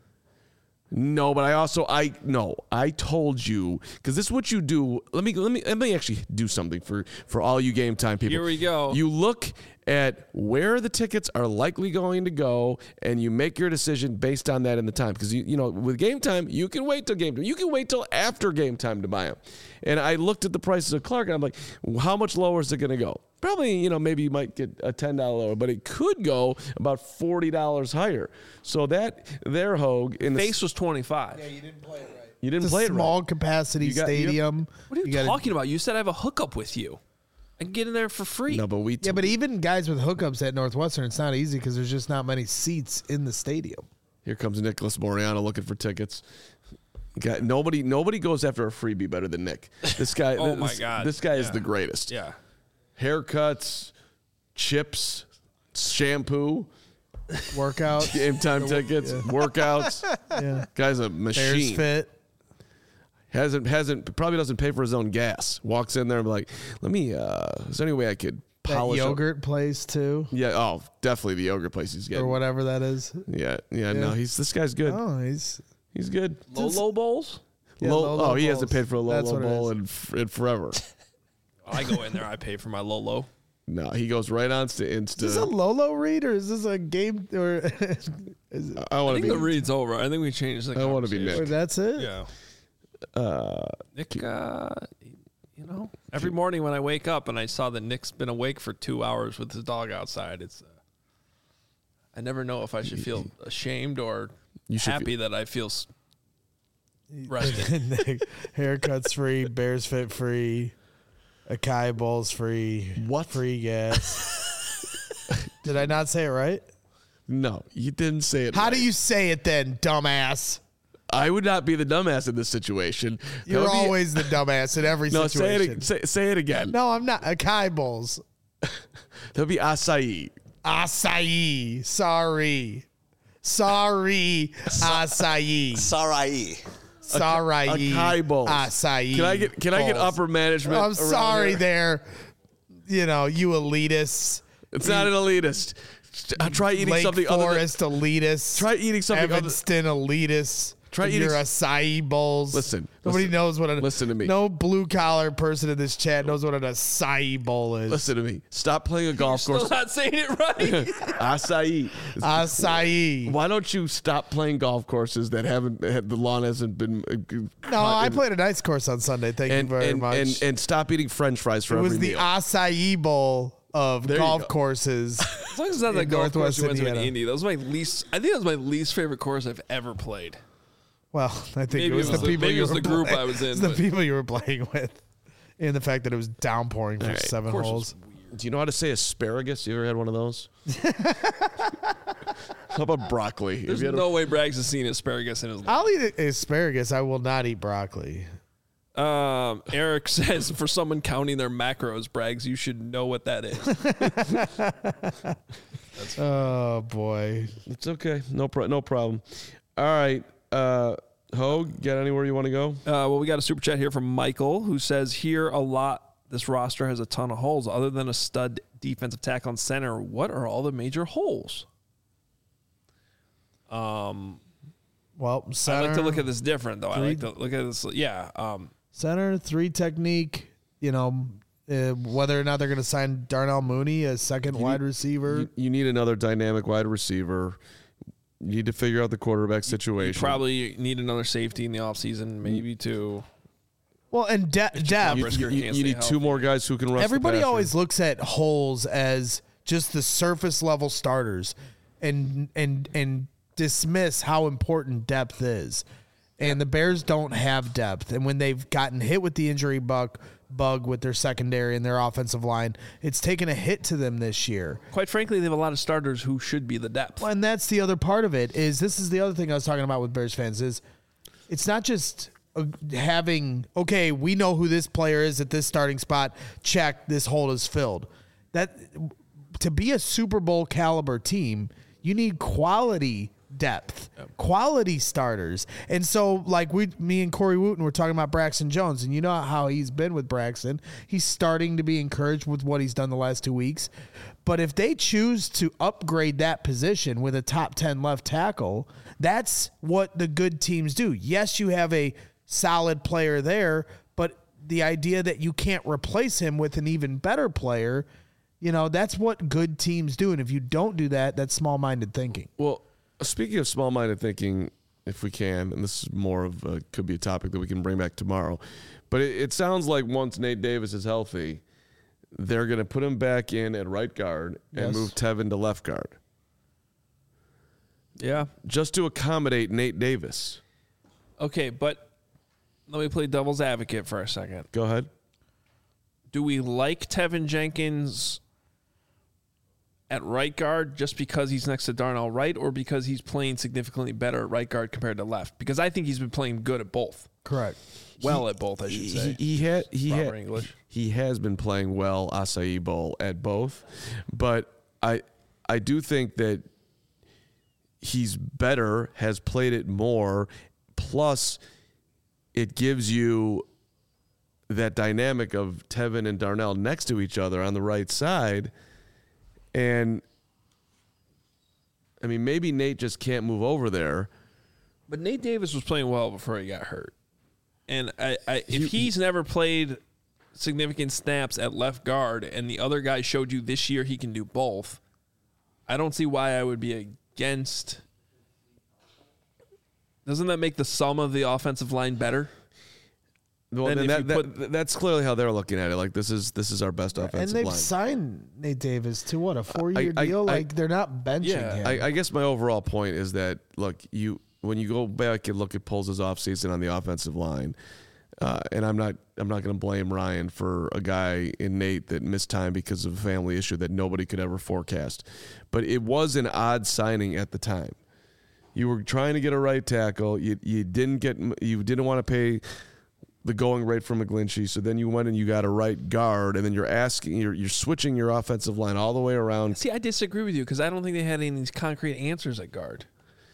No, but I also I no, I told you because this is what you do. Let me let me let me actually do something for for all you Game Time people. Here we go. You look at where the tickets are likely going to go, and you make your decision based on that in the time. Because you you know with Game Time, you can wait till Game Time. You can wait till after Game Time to buy them. And I looked at the prices of Clark, and I'm like, how much lower is it going to go? Probably, you know, maybe you might get a ten dollars lower, but it could go about forty dollars higher. So that there, Hogue, in the Base was twenty-five. you didn't play it right. you didn't It's play a it small right. capacity You got- you- stadium. What are you, gotta- talking about? You said I have a hookup with you. I can get in there for free. No, but we Yeah, but even guys with hookups at Northwestern, it's not easy because there's just not many seats in the stadium. Here comes Nicholas Moriano looking for tickets. Got, nobody nobody goes after a freebie better than Nick. This guy Oh this, my God. This guy is Yeah. the greatest. Yeah. Haircuts, chips, shampoo, Workout, game time tickets, workouts. yeah. Guy's a Bears machine. fit. Hasn't hasn't probably doesn't pay for his own gas. Walks in there and be like, let me uh is there any way I could That polish up- yogurt place too, Yeah, oh, definitely the yogurt place he's or getting. whatever that is. Yeah, yeah, no, he's this guy's good. Oh, he's He's good. Low bowls? Yeah, Low- Lolo oh, he hasn't Bowls. paid for a That's Lolo what it bowl is. in, f- in forever. I go in there. I pay for my Lolo. No, he goes right on to Insta. Is this a Lolo read or is this a game or, is it, I I want to think be. the read's over. I think we changed the I wanna be conversation. Nick. or that's it? Yeah. Uh, Nick, uh, you know, every morning when I wake up and I saw that Nick's been awake for two hours with his dog outside, it's. Uh, I never know if I should feel ashamed or You should happy that I feel s- rested. Haircuts free, Bears fit free, Acai Bowls free. What? Free gas. Did I not say it right? no, you didn't say it. How right. do you say it then, dumbass? I would not be the dumbass in this situation. That You're would be- always the dumbass in every no. Say situation. it. Say, say it again. No, I'm not. Acai Bowls. That'll be acai. Acai. Sorry. Sorry. Acai. Sarai. Sorry. Acai bowls. Acai. Can I get? Can I get bowls. upper management? I'm around sorry here? there. You know, you elitists. It's not an elitist. Uh, try eating Lake something other than. Forest elitists. Try eating something other. Evanston elitists. Try and eating your s- acai bowls. Listen, Nobody listen, knows what a listen to me. No blue collar person in this chat knows what an acai bowl is. Listen to me. Stop playing a golf Still course. not saying it right. Acai. Acai. Why don't you stop playing golf courses that haven't had, the lawn hasn't been? Uh, No, I played a nice course on Sunday. Thank and, you very and, much. and and stop eating French fries for it every was the meal. acai bowl of There you golf go. courses. As long as it's not the In golf course Northwest we went to in Indiana. Indy. That was my least. I think that was my least favorite course I've ever played. Well, I think Maybe it was, it was the the- people maybe it you was were the group playing- I was in, it's the but- people you were playing with, and the fact that it was downpouring for All right. seven Course holes. was weird. Do you know how to say asparagus? You ever had one of those? How about broccoli? Have There's you had a- no way Braggs has seen asparagus in his life. I'll eat asparagus. I will not eat broccoli. Um, Eric says for someone counting their macros, Braggs, you should know what that is. Oh boy. It's okay. No pro- no problem. All right. Uh, Hogue, get anywhere you want to go? Uh, well, we got a super chat here from Michael who says here a lot. This roster has a ton of holes. Other than a stud defensive tackle on center, what are all the major holes? Um, Well, I center, like to look at this different though. I three- like to look at this. Yeah. Um, center three technique. You know, uh, whether or not they're going to sign Darnell Mooney as second wide receiver. You, you need another dynamic wide receiver. You need to figure out the quarterback situation. You probably need another safety in the offseason, maybe to. Well, and de- depth. You, you, you, you need two more guys who can rush. Everybody the always looks at holes as just the surface level starters, and and and dismiss how important depth is. And the Bears don't have depth, and when they've gotten hit with the injury bug bug with their secondary and their offensive line, it's taken a hit to them this year. Quite frankly, they have a lot of starters who should be the depth. Well, and that's the other part of it. Is this is the other thing I was talking about with Bears fans is it's not just uh, having okay, we know who this player is at this starting spot. Check, this hole is filled. That to be a Super Bowl caliber team, you need quality depth, yep. quality starters. And so like we, me and Corey Wooten were talking about Braxton Jones, and you know how he's been with Braxton. He's starting to be encouraged with what he's done the last two weeks. But if they choose to upgrade that position with a top ten left tackle, that's what the good teams do. Yes, you have a solid player there, but the idea that you can't replace him with an even better player, you know, that's what good teams do. And if you don't do that, that's small-minded thinking. Well, speaking of small-minded thinking, if we can, and this is more of a, could be a topic that we can bring back tomorrow, but it, it sounds like once Nate Davis is healthy, they're going to put him back in at right guard and Yes. move Tevin to left guard. Yeah. Just to accommodate Nate Davis. Okay, but let me play devil's advocate for a second. Go ahead. Do we like Tevin Jenkins at right guard just because he's next to Darnell Wright, or because he's playing significantly better at right guard compared to left? Because I think he's been playing good at both. Correct. Well He- at both, I should say. He, he had he Proper had, English. he has been playing well acai bowl at both, but I I do think that he's better, has played it more, plus it gives you that dynamic of Tevin and Darnell next to each other on the right side. And I mean, maybe Nate just can't move over there. But Nate Davis was playing well before he got hurt. And I, I if he's never played significant snaps at left guard and the other guy showed you this year he can do both, I don't see why I would be against. Doesn't that make the sum of the offensive line better? Well, Then then if that, you that, put- that's clearly how they're looking at it. Like, this is this is our best And offensive they've line. signed Nate Davis to what, a four-year I- I- deal? I- like they're not benching Yeah, him. I, I guess my overall point is that, look, you when you go back and look at Poles' offseason on the offensive line, uh, and I'm not I'm not going to blame Ryan for a guy in Nate that missed time because of a family issue that nobody could ever forecast. But it was an odd signing at the time. You were trying to get a right tackle. You you didn't get you didn't want to pay the going rate for McGlinchey, so then you went and you got a right guard, and then you're asking you're you're switching your offensive line all the way around. See, I disagree with you because I don't think they had any of these concrete answers at guard.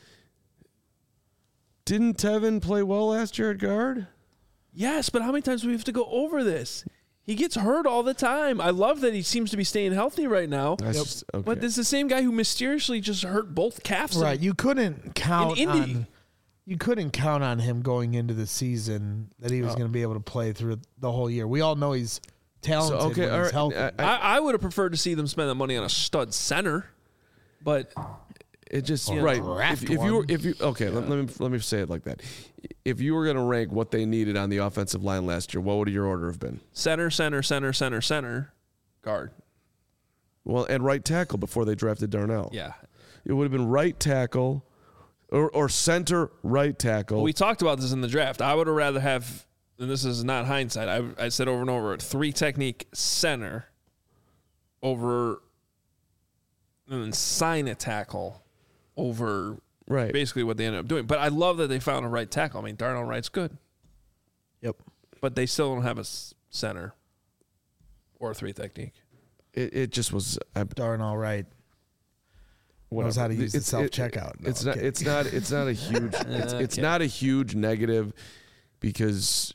Didn't Tevin play well last year at guard? Yes, but how many times do we have to go over this? He gets hurt all the time. I love that he seems to be staying healthy right now. That's just- okay. But this is the same guy who mysteriously just hurt both calves. Right. You couldn't count In Indy. on you couldn't count on him going into the season that he was going to be able to play through the whole year. We all know he's talented So, okay, when all he's right. healthy. I- I, I would have preferred to see them spend the money on a stud center, but It just Yeah. right. Draft If, if you were, one. if you okay, let, let me let me say it like that. If you were going to rank what they needed on the offensive line last year, what would your order have been? center, center, center, center, center, guard. Well, and right tackle before they drafted Darnell. Yeah. It would have been right tackle, or or center right tackle. We talked about this in the draft. I would have rather have, and this is not hindsight, I, I said over and over, three technique center over, and then sign a tackle over right. basically what they ended up doing. But I love that they found a right tackle. I mean, Darnell Wright's good, Yep. but they still don't have a s- center or a three technique. It, it just was. I, Darnell Wright knows whatever. how to use the It's- self it- checkout. It's not. It's not. It's not a huge. It's, it's Okay. not a huge negative because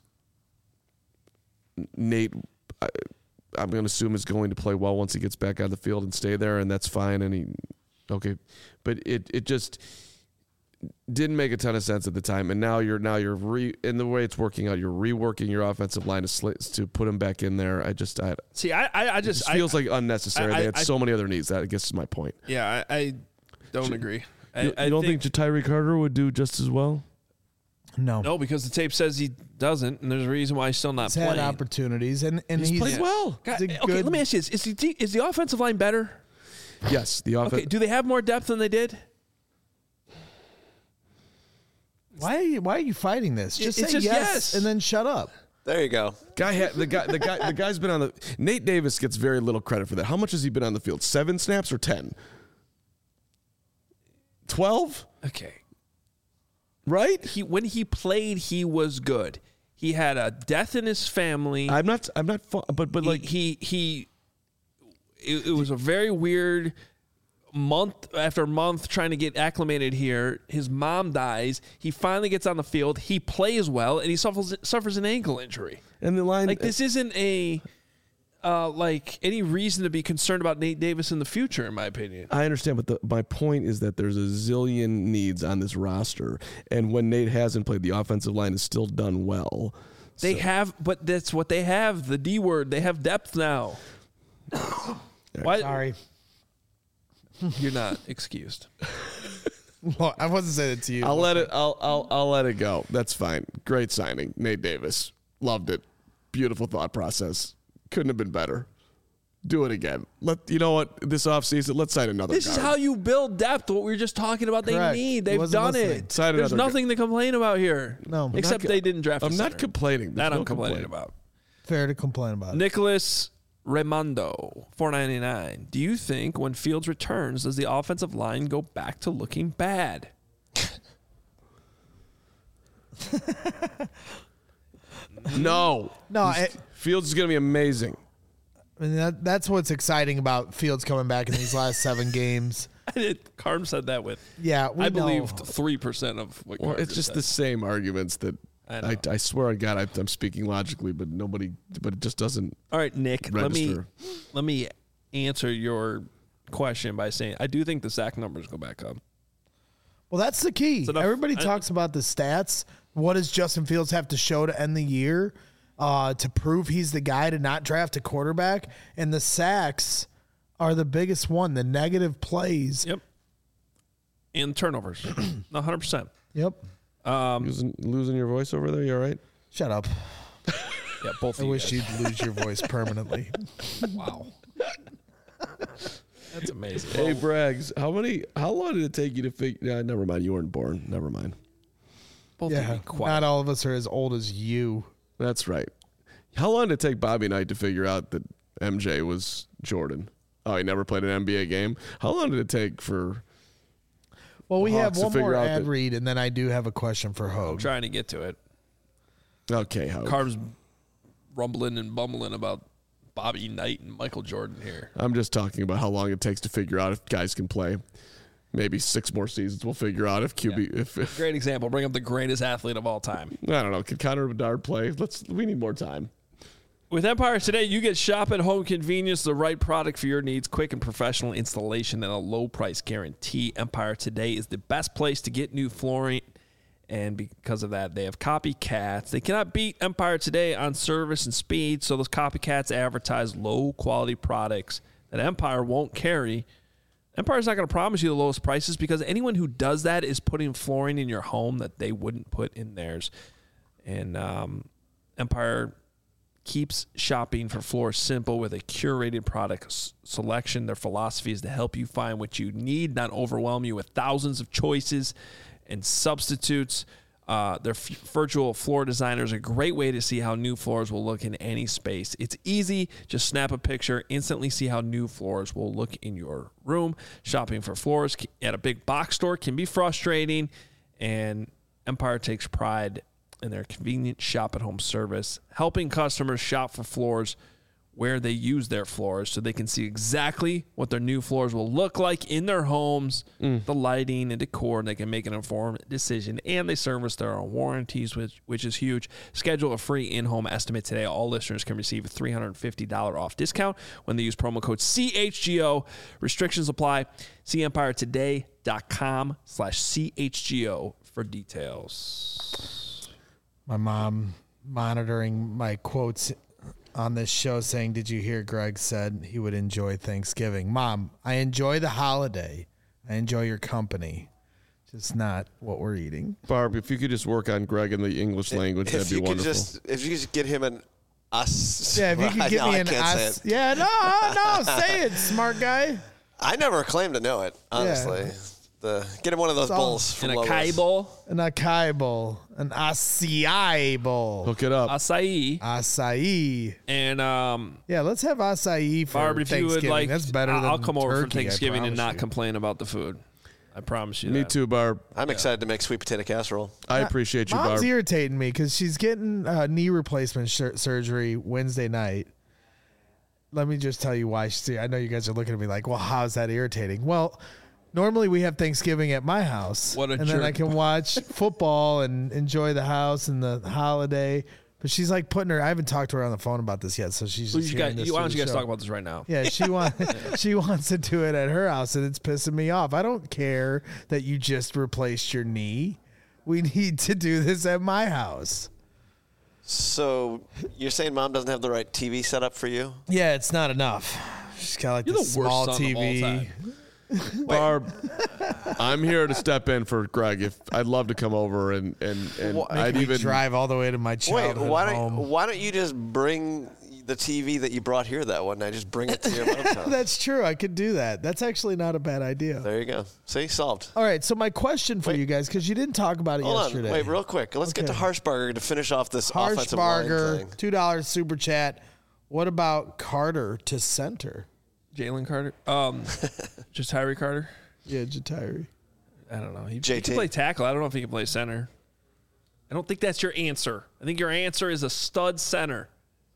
Nate, I, I'm going to assume, is going to play well once he gets back on the field and stay there, and that's fine. And he, okay, but it it just didn't make a ton of sense at the time. And now you're now you're re in the way it's working out. You're reworking your offensive line to sli- to put him back in there. I just I, See, I, I, I it just just feels I, like unnecessary. I- they had I- so many other needs. That I guess is my point. yeah, I, I don't agree. I, You, I you don't think, think, Tyree Carter would do just as well? No. no, because the tape says he doesn't, and there's a reason why he's still not He's playing. had opportunities, and, and He's, he's, played well. God, he's a okay, good- let me ask you this: is the is the offensive line better? Yes, the offense. Okay, do they have more depth than they did? Why are you why are you fighting this? Just It's say just yes, yes. and then shut up. There you go. Guy, ha- the guy, the guy, the guy's been on the. Nate Davis gets very little credit for that. How much has he been on the field? Seven snaps or ten? Twelve, Okay. right? He when he played, he was good. He had a death in his family. I'm not. I'm not. Fu- but but He- like he he. It, it was a very weird month after month trying to get acclimated here. His mom dies. He finally gets on the field. He plays well, and he suffers suffers an ankle injury. and the line Like this isn't a uh, like any reason to be concerned about Nate Davis in the future, in my opinion. I understand, but the, my point is that there's a zillion needs on this roster, and when Nate hasn't played, the offensive line has still done well. They So- have, but that's what they have. The D word. They have depth now. Why? Sorry. You're not excused. Well, I wasn't saying it to you. I'll let it. I'll. I'll. I'll let it go. That's fine. Great signing, Nate Davis. Loved it. Beautiful thought process. Couldn't have been better. Do it again. Let you know what this offseason. Let's sign another. This is guard. how you build depth. What we were just talking about. They Correct. need. He They've wasn't done listening. it. Sign There's another nothing to complain about here. No. I'm except not- they didn't draft. a I'm not center. complaining. That There's I'm no complaining complaint. about. Fair to complain about. Nicholas Raimondo, four ninety-nine. Do you think when Fields returns, does the offensive line go back to looking bad? No. No, He's- I- Fields is going to be amazing. I mean, that, that's what's exciting about Fields coming back in these last seven games. Carm said that with. Yeah, we I know. believed three percent of what. Well, Carm it's just said. the same arguments that I know. I, I, swear on God I, I'm speaking logically, but nobody, but it just doesn't All right, Nick. Let me register. let me answer your question by saying I do think the sack numbers go back up. Well, that's the key. enough- Everybody I- talks about the stats. What does Justin Fields have to show to end the year uh, to prove he's the guy to not draft a quarterback? And the sacks are the biggest one. The negative plays. Yep. And turnovers, one hundred percent. Yep. losing, losing your voice over there. You all right? Shut up. Yeah, both. I of you wish guys. you'd lose your voice permanently. Wow. That's amazing. Hey, Braggs, how many? How long did it take you to figure? Yeah, never mind. You weren't born. Never mind. Both of Yeah. you quiet. Not all of us are as old as you. That's right. How long did it take Bobby Knight to figure out that M J was Jordan? Oh, he never played an N B A game. How long did it take for? Well, we Hawks have to one figure more out ad that- read, and then I do have a question for I'm Hogue. trying to get to it. Okay, how? Carbs rumbling and bumbling about Bobby Knight and Michael Jordan here. I'm just talking about how long it takes to figure out if guys can play. Maybe six more seasons. We'll figure out if Q B. If, if Great example. Bring up the greatest athlete of all time. I don't know, can Connor Bedard play? Let's. We need more time. With Empire today, you get shop at home convenience, the right product for your needs, quick and professional installation, and a low price guarantee. Empire today is the best place to get new flooring, and because of that, they have copycats. They cannot beat Empire today on service and speed, so those copycats advertise low quality products that Empire won't carry. Empire's not going to promise you the lowest prices because anyone who does that is putting flooring in your home that they wouldn't put in theirs. And um, Empire keeps shopping for floors simple with a curated product s- selection. Their philosophy is to help you find what you need, not overwhelm you with thousands of choices and substitutes. Uh, their f- virtual floor designer is a great way to see how new floors will look in any space. It's easy. Just snap a picture, instantly see how new floors will look in your room. Shopping for floors at a big box store can be frustrating, and Empire takes pride in their convenient shop-at-home service, helping customers shop for floors where they use their floors so they can see exactly what their new floors will look like in their homes, the lighting and decor, and they can make an informed decision. And they service their own warranties, which which is huge. Schedule a free in-home estimate today. All listeners can receive a three hundred fifty dollars off discount when they use promo code C H G O. Restrictions apply. See empire today dot com slash C H G O for details. My mom monitoring my quotes on this show saying, did you hear Greg said he would enjoy Thanksgiving? Mom, I enjoy the holiday. I enjoy your company. just not what we're eating. Barb, if you could just work on Greg in the English language, if that'd be you could wonderful. just, if you could just get him an us. Yeah, if you could get no, me I an can't say us. it. Yeah, no, no, say it, smart guy. I never claimed to know it, honestly. Yeah. The get him one of those all- bowls from In a Lowe's. Kai bowl, An acai bowl, an acai bowl, Hook it up. acai, acai. and um, Yeah, let's have acai for Barb, if you Thanksgiving. would like, That's better I'll than I'll come over for turkey, I Thanksgiving and promise not you. complain about the food. I promise you. Me that. too, Barb. I'm excited to make sweet potato casserole. I appreciate you, Mom's Barb. irritating me because she's getting uh, knee replacement sur- surgery Wednesday night. Let me just tell you why. She's, I know you guys are looking at me like, well, how's that irritating? Well, normally we have Thanksgiving at my house. What a and then I jerk. can watch football and enjoy the house and the holiday. But she's like putting her, I haven't talked to her on the phone about this yet. So she's Well, just you hearing guys, this you, why through don't you the guys show. talk about this right now? Yeah, she wants she wants to do it at her house, and it's pissing me off. I don't care that you just replaced your knee. We need to do this at my house. So you're saying mom doesn't have the right T V set up for you? Yeah, it's not enough. She's got like You're the, the worst small son of T all V. time. Barb, I'm here to step in for Greg. If I'd love to come over and and and Wha- I'd Make me even drive all the way to my Wait, childhood why home. don't why don't you just bring the T V that you brought here that one night? Just bring it to your mom's house. That's true. I could do that. That's actually not a bad idea. There you go. See, solved. All right. So my question for Wait. you guys, because you didn't talk about it Hold yesterday. on, wait, real quick. Let's get to Okay. Harshbarger to finish off this offensive line Harshbarger, thing. two dollars super chat. What about Carter to center? Jalen Carter, um, just Tyree Carter. Yeah, Jatiri. I don't know. He, he J T. can play tackle. I don't know if he can play center. I don't think that's your answer. I think your answer is a stud center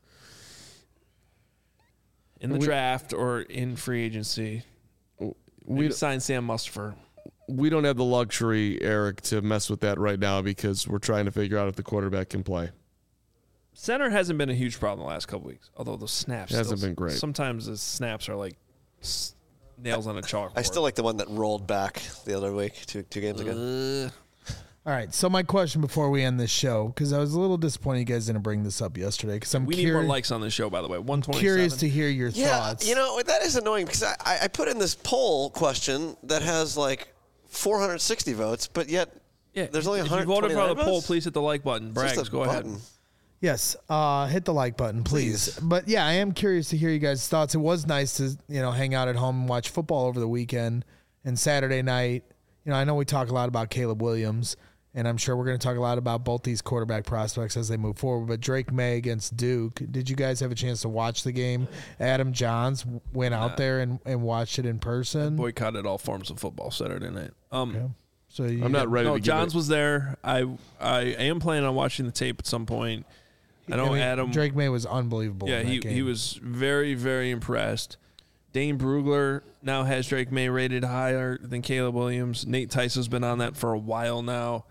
in the We- draft or in free agency. we We sign Sam Mustipher. we don't have the luxury, Eric, to mess with that right now because we're trying to figure out if the quarterback can play. Center hasn't been a huge problem the last couple weeks, although the snaps It hasn't still- been great. Sometimes the snaps are like s- nails on a chalkboard. I still like the one that rolled back the other week, two two games ago. Uh, All right. So my question before we end this show, because I was a little disappointed you guys didn't bring this up yesterday, because I'm we need curi- more likes on this show, by the way. one twenty-seven. curious to hear your Yeah, thoughts. you know that is annoying because I, I I put in this poll question that has like four hundred sixty votes, but yet Yeah, there's only if one you hundred voted for the votes? poll, please hit the like button. It's just Braggs, a go ahead. button. Yes, uh, hit the like button, please. Please. But yeah, I am curious to hear you guys' thoughts. It was nice to you know hang out at home and watch football over the weekend and Saturday night. You know, I know we talk a lot about Caleb Williams, and I'm sure we're going to talk a lot about both these quarterback prospects as they move forward. But Drake May against Duke, did you guys have a chance to watch the game? Adam Johns went out there and, and watched it in person. Boycotted all forms of football Saturday night. Um, Okay. So you I'm not ready no, to give Johns it. was there. I I am planning on watching the tape at some point. I know mean, Adam. Drake May was unbelievable. yeah, in that he game. he was very very impressed. Dane Brugler now has Drake May rated higher than Caleb Williams. Nate Tyson's been on that for a while now.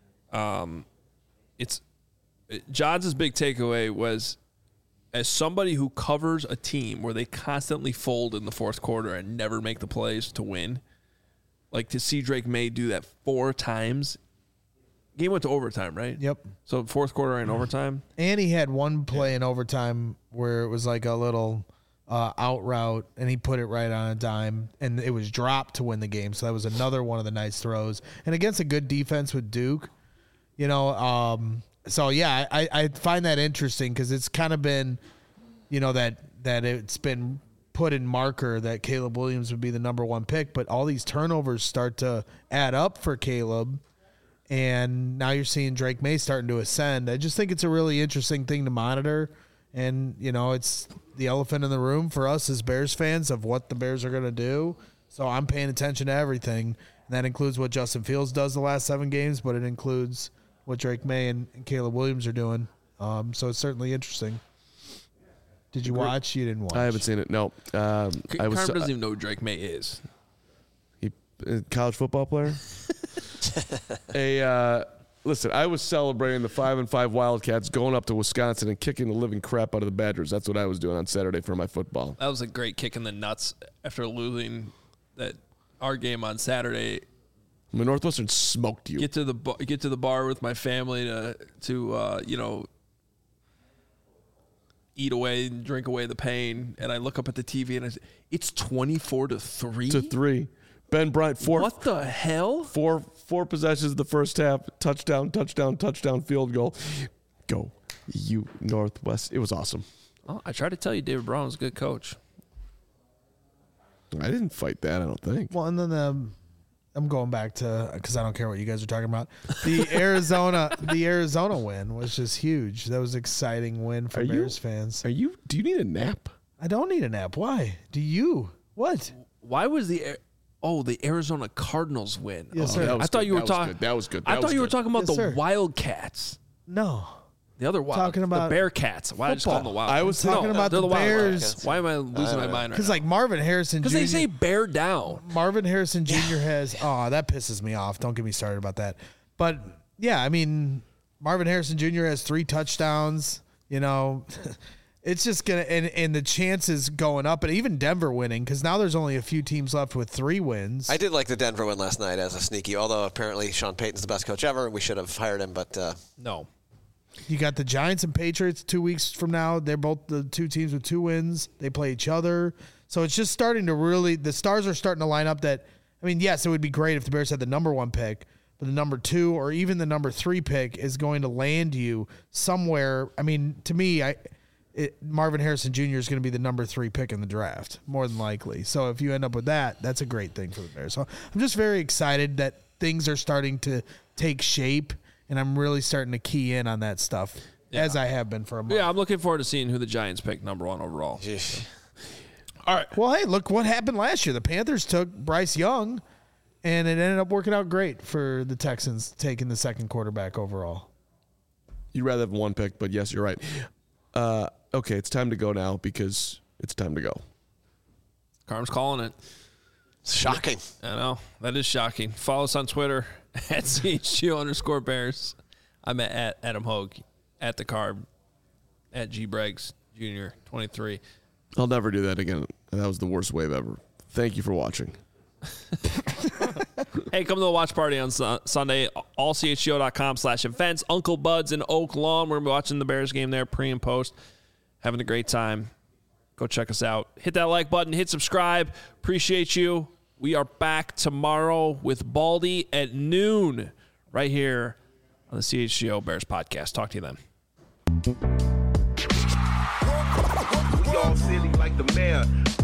Um, it's it, Johns' big takeaway was, as somebody who covers a team where they constantly fold in the fourth quarter and never make the plays to win, like to see Drake May do that four times. Game went to overtime, right? Yep. So fourth quarter and overtime. And he had one play in overtime where it was like a little uh, out route, and he put it right on a dime, and it was dropped to win the game. So that was another one of the nice throws. And against a good defense with Duke, you know, um, so yeah, I, I find that interesting because it's kind of been, you know, that that it's been put in marker that Caleb Williams would be the number one pick, but all these turnovers start to add up for Caleb. And now you're seeing Drake May starting to ascend. I just think it's a really interesting thing to monitor. And, you know, it's the elephant in the room for us as Bears fans of what the Bears are going to do. So I'm paying attention to everything. And that includes what Justin Fields does the last seven games, but it includes what Drake May and, and Caleb Williams are doing. Um, so it's certainly interesting. Did you watch? You didn't watch. I haven't seen it. No, um, I was Carm doesn't even know who Drake May is. he, a college football player. a uh, listen, I was celebrating the five and five Wildcats going up to Wisconsin and kicking the living crap out of the Badgers. That's what I was doing on Saturday for my football. That was a great kick in the nuts after losing that our game on Saturday. I mean, Northwestern smoked you. Get to the bar, get to the bar with my family to to uh, you know eat away and drink away the pain, and I look up at the T V and I say, it's twenty-four to three. to three. Ben Bryant four What the hell? four four possessions in the first half, touchdown, touchdown, touchdown, field goal. Go, you Northwest. It was awesome. Oh, I tried to tell you David Brown was a good coach. I didn't fight that, I don't think. Well, and then the, I'm going back to, because I don't care what you guys are talking about. The Arizona, the Arizona win was just huge. That was an exciting win for Are Bears you, fans. Are you? Do you need a nap? I don't need a nap. Why? Do you? What? Why was the oh the Arizona Cardinals win? Yes, oh, sir. That was I thought good. you were That was talking. good. That was good. I That thought was you were good. talking about Yes, the sir. Wildcats. No. The other wild, Talking about the Bearcats. Why did I just call them the football. Wildcats? I was talking No, about they're the Wildcats. Bears. Why am I losing my mind right Because now? like Marvin Harrison Because Junior they say bear down. Marvin Harrison Junior has, oh, that pisses me off. Don't get me started about that. But yeah, I mean, Marvin Harrison Junior has three touchdowns. You know, it's just going to, and, and the chances going up, and even Denver winning, because now there's only a few teams left with three wins. I did like the Denver win last night as a sneaky, although apparently Sean Payton's the best coach ever. We should have hired him, but uh, No. You got the Giants and Patriots two weeks from now. They're both the two teams with two wins. They play each other. So it's just starting to really, the stars are starting to line up that, I mean, yes, it would be great if the Bears had the number one pick, but the number two or even the number three pick is going to land you somewhere. I mean, to me, I it, Marvin Harrison Junior is going to be the number three pick in the draft, more than likely. So if you end up with that, that's a great thing for the Bears. So I'm just very excited that things are starting to take shape. And I'm really starting to key in on that stuff, yeah. as I have been for a month. Yeah, I'm looking forward to seeing who the Giants pick number one overall. All right. Well, hey, look what happened last year. The Panthers took Bryce Young, and it ended up working out great for the Texans taking the second quarterback overall. You'd rather have one pick, but yes, you're right. Uh, okay, it's time to go now because it's time to go. Carm's calling it. shocking. I know. That is shocking. Follow us on Twitter at C H G O underscore Bears. I'm at, at Adam Hogue, at the Carb, at G Braggs Junior twenty-three. I'll never do that again. That was the worst wave ever. Thank you for watching. Hey, come to the watch party on su- Sunday. all C H G O dot com slash events. Uncle Bud's in Oak Lawn. We're going to be watching the Bears game there, pre and post. Having a great time. Go check us out. Hit that like button. Hit subscribe. Appreciate you. We are back tomorrow with Baldy at noon right here on the C H G O Bears podcast. Talk to you then. We all silly like the mayor.